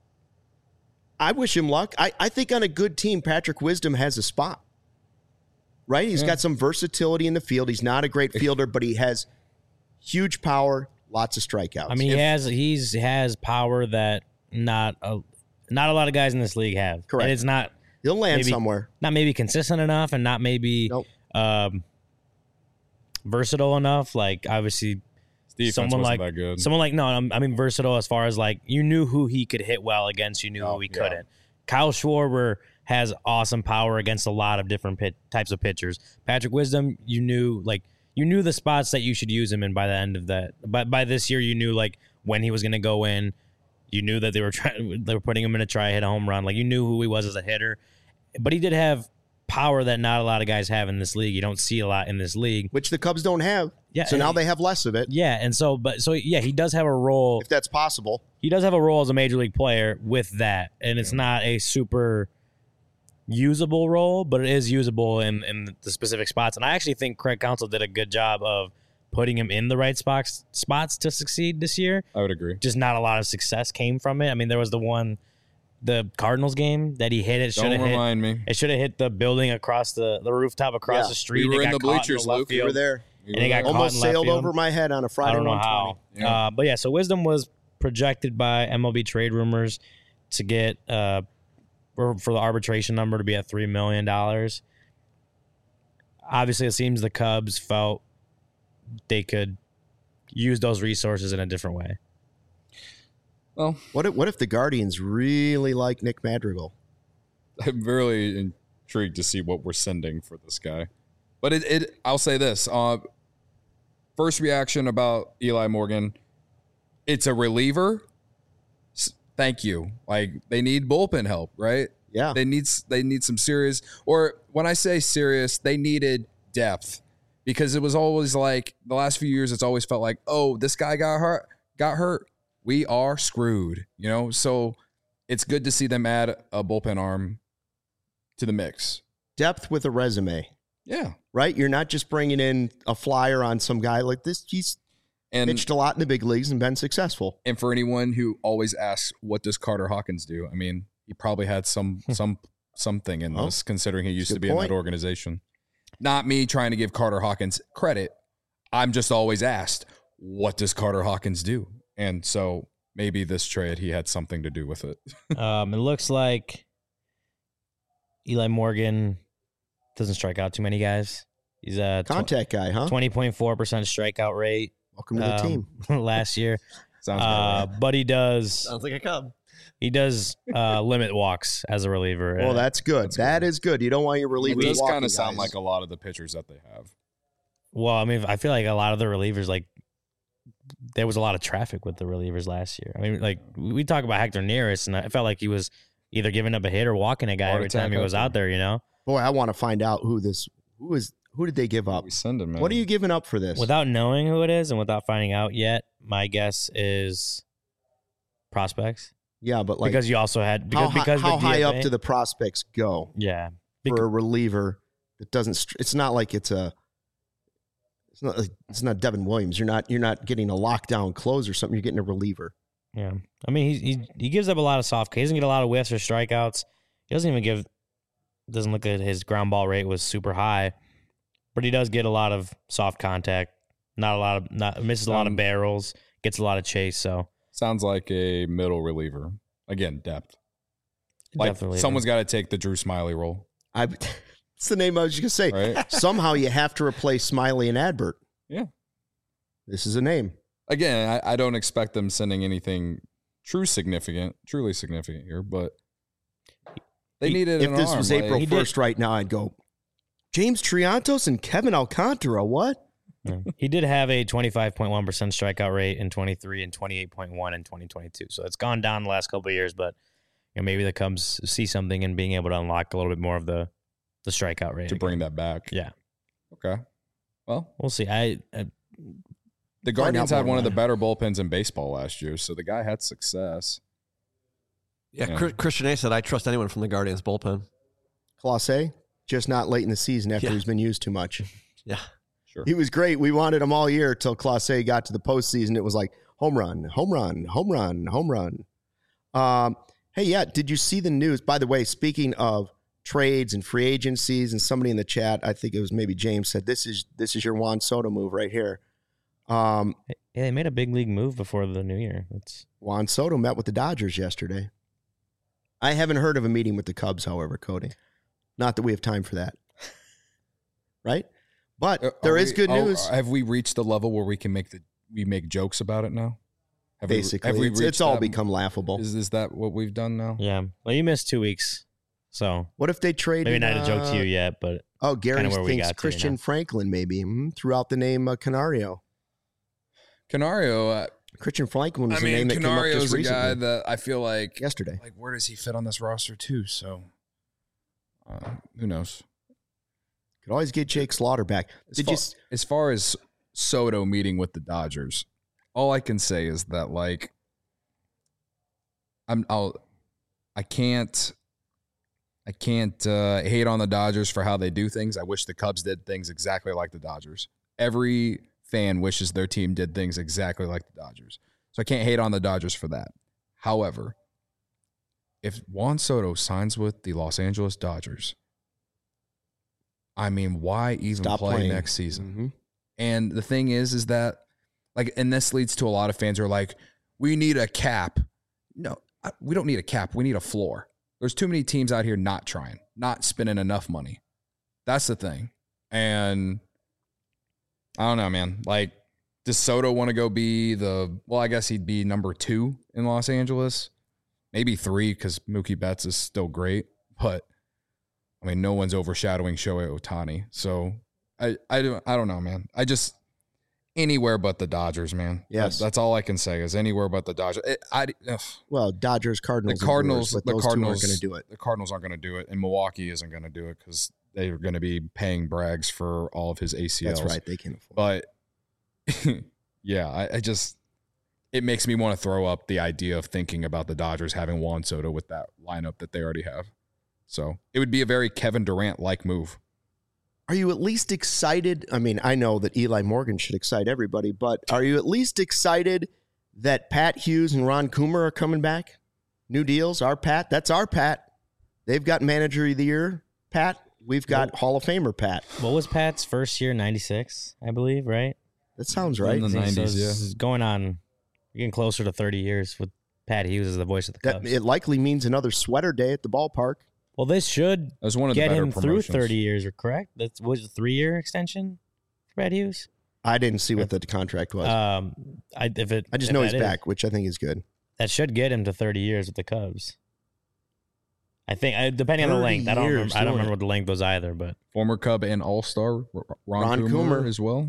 I wish him luck. I, I think on a good team, Patrick Wisdom has a spot. Right? He's Yeah. got some versatility in the field. He's not a great fielder, but he has huge power, lots of strikeouts. I mean, If- he has he's has power that not a not a lot of guys in this league have. Correct. And it's not he'll land maybe- somewhere. not maybe consistent enough, and not maybe Nope. um, versatile enough. Like obviously, Defense someone wasn't like that good. someone like no, I'm- I mean versatile as far as like you knew who he could hit well against, you knew Oh, who he yeah. couldn't. Kyle Schwarber has awesome power against a lot of different pit, types of pitchers. Patrick Wisdom, you knew like you knew the spots that you should use him in by the end of that. But by this year, you knew like when he was going to go in. You knew that they were trying, they were putting him in to try to hit a home run. Like you knew who he was as a hitter, but he did have power that not a lot of guys have in this league. You don't see a lot in this league. Which the Cubs don't have. Yeah, So now and- they have less of it, Yeah, and so but so yeah, he does have a role. if that's possible. He does have a role as a major league player with that, and it's not a super usable role, but it is usable in, in the specific spots. And I actually think Craig Counsell did a good job of putting him in the right spots spots to succeed this year. I would agree. Just not a lot of success came from it. I mean, there was the one, the Cardinals game that he hit it should Don't have hit. remind me. It should have hit the building across the the rooftop across Yeah, the street. we and were it in got the caught bleachers, left Luke. You field. were there. And it got caught Almost in left sailed field. over my head on a I Friday don't know one twenty. how. Yeah. Uh, but yeah, so Wisdom was projected by M L B trade rumors to get uh, for, for the arbitration number to be at three million dollars. Obviously, it seems the Cubs felt they could use those resources in a different way. Well, What if, what if the Guardians really like Nick Madrigal? I'm really intrigued to see what we're sending for this guy. But it, it I'll say this. Uh, first reaction about Eli Morgan, it's a reliever. S- Thank you. Like they need bullpen help, right? Yeah. They need s- they need some serious, or when I say serious, they needed depth because it was always like the last few years. It's always felt like, oh, this guy got hurt, got hurt. We are screwed, you know. So it's good to see them add a bullpen arm to the mix. Depth with a resume, Yeah, right? You're not just bringing in a flyer on some guy like this. He's and pitched a lot in the big leagues and been successful. and for anyone who always asks, what does Carter Hawkins do? I mean, he probably had some some something in Well, this, considering he used good to be in point. that organization. Not me trying to give Carter Hawkins credit. I'm just always asked, what does Carter Hawkins do? And so maybe this trade, he had something to do with it. Um, it looks like Eli Morgan doesn't strike out too many guys. He's a Contact guy, huh? twenty point four percent strikeout rate Welcome to the um, team. last year. Sounds Uh, about right. but he does Sounds like a Cub. he does uh, limit walks as a reliever. Well, Uh, that's good. That's That good. is good. You don't want your It relievers does walking kind of sound guys. like a lot of the pitchers that they have. well, I mean, I feel like a lot of the relievers, like there was a lot of traffic with the relievers last year. I mean, like we talk about Hector Neris, and I felt like he was either giving up a hit or walking a guy Heart every time he attack was Hector. out there. You know, Boy, I want to find out who this who is who did they give up? We send him, man. What are you giving up for this? without knowing who it is and without finding out yet, my guess is prospects. yeah, but like because you also had because how, hi- because how the high D F up A do the prospects go yeah for a reliever that doesn't? str- It's not like it's a. It's not. Like, it's not Devin Williams. You're not. You're not getting a lockdown close or something. You're getting a reliever. yeah. I mean, he he he gives up a lot of soft. He doesn't get a lot of whiffs or strikeouts. He doesn't even give. Doesn't look at his ground ball rate was super high, but he does get a lot of soft contact. Not a lot of not misses a lot of Um, barrels. Gets a lot of chase. So Sounds like a middle reliever. Again, depth. Like definitely someone's got to take the Drew Smiley role, I. It's the name I was just gonna say. right? Somehow you have to replace Smiley and Adbert. Yeah. This is a name. Again, I, I don't expect them sending anything true significant, truly significant here, but they He- needed If an this arm. was like- April He did- first right now, I'd go, James Triantos and Kevin Alcantara. What? Yeah. He did have a twenty-five point one percent strikeout rate in twenty-three and twenty-eight point one in twenty twenty-two. So it's gone down the last couple of years, but you know, maybe the Cubs see something in being able to unlock a little bit more of the, the strikeout rate. to again. bring that back. Yeah. Okay. Well, We'll see. I, I the Find Guardians out had more one of the about better bullpens in baseball last year, so the guy had success. Yeah, Yeah. Chris- Christian A said, I trust anyone from the Guardians bullpen. Clase, just not late in the season after Yeah. he's been used too much. Yeah. Sure. He was great. We wanted him all year till Clase got to the postseason. It was like home run, home run, home run, home run. Um, hey, yeah, did you see the news? By the way, speaking of trades and free agencies, and somebody in the chat, I think it was maybe James, said this is this is your Juan Soto move right here. Um, Yeah, they made a big league move before the new year. It's Juan Soto met with the Dodgers yesterday. I haven't heard of a meeting with the Cubs, however, Cody. Not that we have time for that. Right? But Uh, there are is we- good are- news. have we reached the level where we can make the we make jokes about it now? Have we- Basically, have we it's, reached it's all that- become laughable. Is is that what we've done now? yeah. Well, you missed two weeks, so What if they traded? maybe not a joke to you uh, yet, but Oh, Gary kinda where we thinks got to, Christian you know? Franklin maybe hmm, throughout the name uh, Canario. Canario. Uh, Christian Franklin was I the name mean, that came up Canario's just a recently, guy that I feel like yesterday. like where does he fit on this roster too? So uh, who knows? Could always get Jake Slaughter back. As Did far, you? s- as far as Soto meeting with the Dodgers, all I can say is that like I'm I'll I can't I can't uh, hate on the Dodgers for how they do things. I wish the Cubs did things exactly like the Dodgers. Every fan wishes their team did things exactly like the Dodgers. So I can't hate on the Dodgers for that. However, if Juan Soto signs with the Los Angeles Dodgers, I mean, why even Stop play playing. next season? Mhm. And the thing is, is that like, and this leads to a lot of fans who are like, we need a cap. No, I- we don't need a cap. We need a floor. There's too many teams out here not trying, not spending enough money. That's the thing. And I don't know, man. Like, does Soto want to go be the, well, I guess he'd be number two in Los Angeles. Maybe three because Mookie Betts is still great. But, I mean, no one's overshadowing Shohei Ohtani. So, I, I, don't, I don't know, man. I just, anywhere but the Dodgers, man. Yes. That, that's all I can say is anywhere but the Dodgers. It, I, ugh. Well, Dodgers, Cardinals, The Cardinals, and Brewers, but the those Cardinals, two aren't going to do it. The Cardinals aren't going to do it, and Milwaukee isn't going to do it because they're going to be paying Braggs for all of his A C Ls. That's right. They can afford. But yeah, I, I just it makes me want to throw up the idea of thinking about the Dodgers having Juan Soto with that lineup that they already have. So it would be a very Kevin Durant like move. Are you at least excited? I mean, I know that Eli Morgan should excite everybody, but are you at least excited that Pat Hughes and Ron Coomer are coming back? New deals, our Pat. That's our Pat. They've got Manager of the Year, Pat. We've got Nope. Hall of Famer, Pat. what was Pat's first year? ninety-six, I believe, right? That sounds right. In the So nineties, this yeah. is going on. You're getting closer to thirty years with Pat Hughes as the voice of the That, Cubs. it likely means another sweater day at the ballpark. well, this should That was one of the get better him through promotions. thirty years, correct? That was a three-year extension for Pat Hughes. I didn't see what the contract was. Um, I if it, I just if know that he's is- back, which I think is good. That should get him to thirty years with the Cubs. I think, I- depending on the thirty length. I don't. years Remember, I don't doing remember it. what the length was either, but Former Cub and All Star Ron, Ron Coomer, Coomer. as well.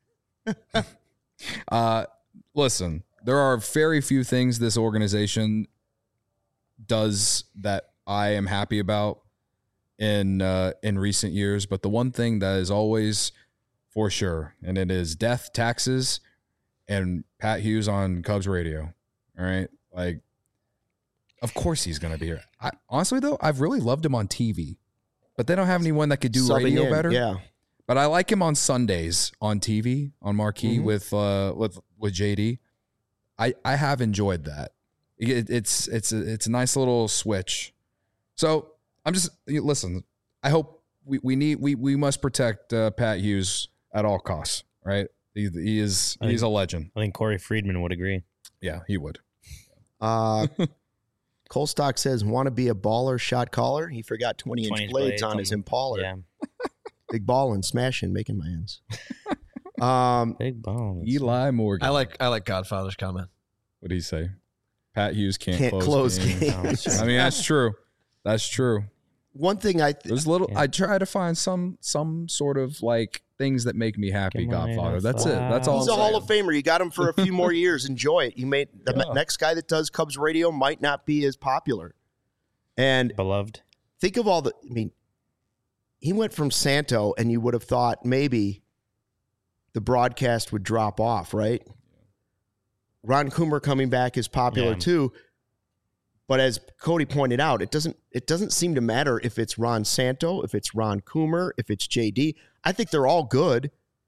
uh, listen, there are very few things this organization does that I am happy about in uh, in recent years, but the one thing that is always for sure, and it is death, taxes, and Pat Hughes on Cubs radio. All right, like, of course he's going to be here. I, honestly, though, I've really loved him on T V, but they don't have anyone that could do Subbing radio in, better. Yeah. But I like him on Sundays on T V on Marquee Mhm. with uh with with J D. I I have enjoyed that. It, it's it's a, it's a nice little switch. So I'm just listen. I hope we, we need we we must protect uh, Pat Hughes at all costs. Right? He, he is I he's think- a legend. I think Corey Friedman would agree. Yeah, he would. Uh, Colstock says, want to be a baller shot caller? He forgot twenty-inch twenty-inch blades, blades on on his them. Impala. Yeah, Big ballin', smashing, making my ends. um, big bones. Eli Morgan. I like I like Godfather's comment. What did he say? Pat Hughes can't, Can't close games. games. I mean, that's true. That's true. One thing I th- There's little. Yeah. I try to find some some sort of like things that make me happy. Come on, Godfather. it's That's it. That's all. he's I'm a Hall saying. of Famer. You got him for a few more years. Enjoy it. You may the Yeah. next guy that does Cubs radio might not be as popular. And Beloved. think of all the. I mean, he went from Santo, and you would have thought maybe the broadcast would drop off, right? Ron Coomer coming back is popular Yeah. too. But as Cody pointed out, it doesn't it doesn't seem to matter if it's Ron Santo, if it's Ron Coomer, if it's J D. I think they're all good.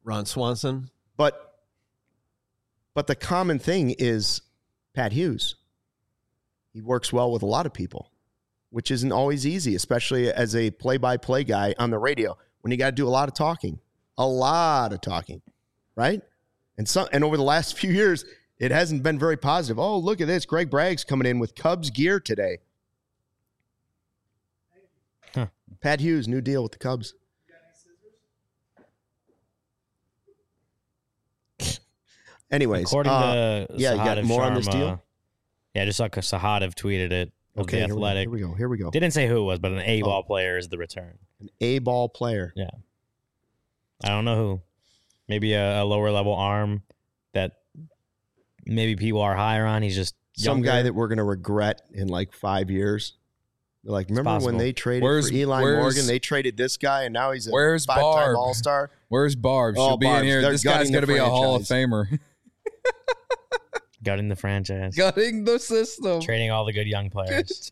Ron Swanson. But but the common thing is Pat Hughes. He works well with a lot of people, which isn't always easy, especially as a play-by-play guy on the radio when you got to do a lot of talking, a lot of talking, right? And some, and over the last few years, it hasn't been very positive. Oh, look at this. Greg Bragg's coming in with Cubs gear today. Huh. Pat Hughes, new deal with the Cubs. Anyways, according uh, to yeah, you got Sahadev more on this Sharma- deal? Yeah, just like Sahadev tweeted it. Of Okay, the here we go, Athletic. here we go. Here we go. Didn't say who it was, but an A ball Oh. player is the return. An A-ball player. Yeah. I don't know who. Maybe a, a lower level arm that maybe people are higher on. He's just Some younger. guy that we're going to regret in like five years. They're like, remember when possible. they traded Where's- for Eli where's- Morgan? They traded this guy, and now he's a Where's five-time Barb? All-Star. Where's Barb? Oh, She'll be in Barb's- here. they're This guy's gutting going to the be a Hall of franchise. Famer. Gutting the franchise. Gutting the system. Trading all the good young players.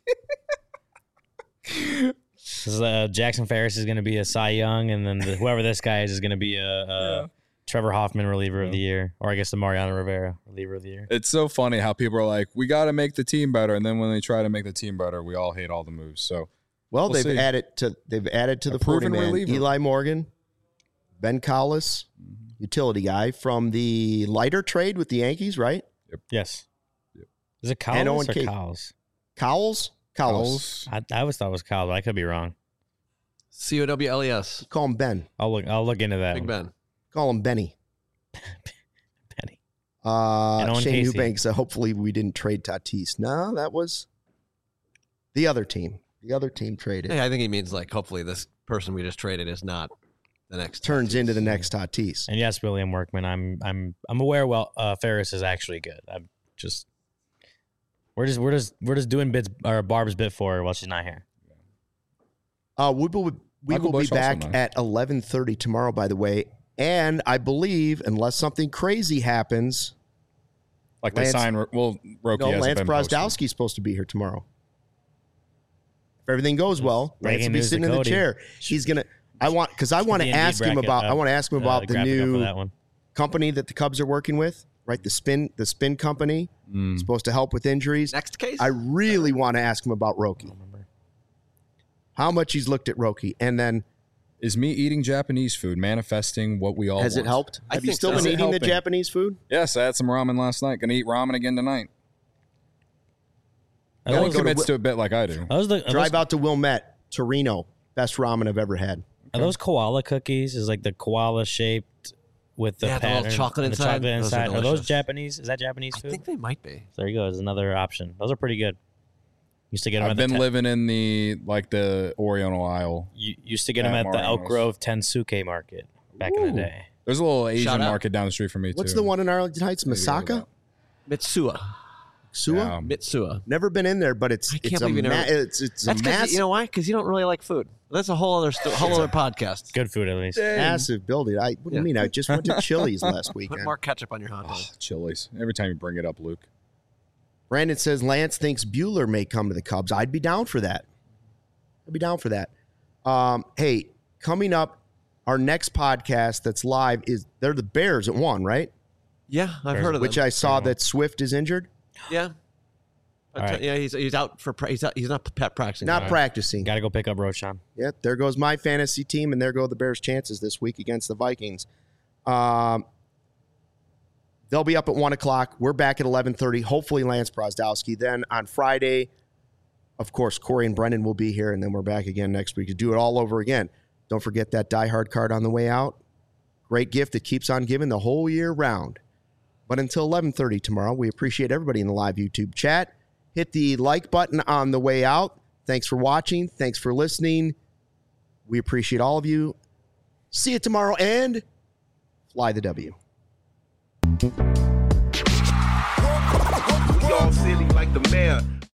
This is, uh, Jackson Ferris is going to be a Cy Young, and then the, whoever this guy is is going to be a, a Yeah. Trevor Hoffman reliever of the year, or I guess the Mariano Rivera reliever of the year. It's so funny how people are like, we got to make the team better. And then when they try to make the team better, we all hate all the moves. So Well, We'll they've see. added to they've added to A the proven forty man reliever. Eli Morgan, Ben Collis, utility guy from the lighter trade with the Yankees, right? Yes. Yep. Is it And Cowles Owen or Kate. Cowles? Cowles, Cowles. Cowles. I, I always thought it was Cowles, but I could be wrong. C O W L E S. Call him Ben. I'll look. I'll look into that. Big one. Ben. Call him Benny. Penny. Uh, And Owen Shane Casey. Eubanks. Uh, hopefully, we didn't trade Tatis. No, that was the other team. The other team traded. Hey, I think he means like hopefully this person we just traded is not the next Turns Tatis. into the next Tatis. And yes, William Workman. I'm. I'm. I'm aware. Well, uh, Ferris is actually good. I'm just. We're just. We're just. We're just doing bits or Barb's bit for her while she's not here. Uh, we will, we Michael will be Bush also back nice. at eleven thirty tomorrow, by the way. And I believe, unless something crazy happens, Like they Lance- sign, well, Roki no, hasn't Lance been posted. Brozdowski's supposed to be here tomorrow. If everything goes well, Lance Breaking will be news to sitting in the Cody. chair. He's gonna. I want because I want to The Indeed ask him bracket, about. uh, I want to ask him uh, about the graphic up for new that one. company that the Cubs are working with. Right, the spin, the spin company Mm. supposed to help with injuries. Next case. I really want to ask him about Roki. How much he's looked at Roki, and then Is me eating Japanese food manifesting what we all has it want? helped? I Have you think still so. been Is it eating the helping? Japanese food? Yes, I had some ramen last night. Gonna eat ramen again tonight. Are No gotta one those, go to commits Wi- to a bit like I do. are those the, are Drive those, out to Wilmette, Torino. Best ramen I've ever had. are those koala cookies? Is like the koala shaped with the Yeah, the little pattern, chocolate and the inside? chocolate Those are inside. Are, those delicious. Japanese? Is that Japanese I food? think they might be. There you go. There's another option. Those are pretty good. Used to get them I've at the been ten- living in the like the Oriental aisle. You used to get them at at the Elk Mariano's. Grove Tensuke Market back in the Ooh. day. There's a little Asian Shout out. market down the street from me What's too. the one in Arlington Heights? Maybe go to Masaka? Mitsua. Sua? Yeah. Mitsua. Never been in there, but it's I can't it's a believe you ma- never- it's it's a That's because massive, you know why? Because you don't really like food. That's a whole other st- whole other podcast. Good food at least. massive building. I what do Yeah. you mean? I just went to Chili's last Put weekend. more ketchup on your hot dog. Oh, Chili's. Every time you bring it up, Luke. Brandon says Lance thinks Bueller may come to the Cubs. I'd be down for that. I'd be down for that. Um, hey, coming up, our next podcast that's live is they're the Bears at one, right? Yeah, I've There's- heard of Which them. I saw that Swift is injured, yeah. All But, uh, right. Yeah, he's he's out for pra- he's out, he's not pet practicing. not right. practicing. Got to go pick up Roshan. Yep, there goes my fantasy team, and there go the Bears' chances this week against the Vikings. Um, they'll be up at one o'clock. We're back at eleven thirty. Hopefully, Lance Brozdowski. Then on Friday, of course, Corey and Brendan will be here, and then we're back again next week to do it all over again. Don't forget that Die Hard card on the way out. Great gift that keeps on giving the whole year round. But until eleven thirty tomorrow, we appreciate everybody in the live YouTube chat. Hit the like button on the way out. Thanks for watching. Thanks for listening. We appreciate all of you. See you tomorrow and fly the W. We all silly like the mayor.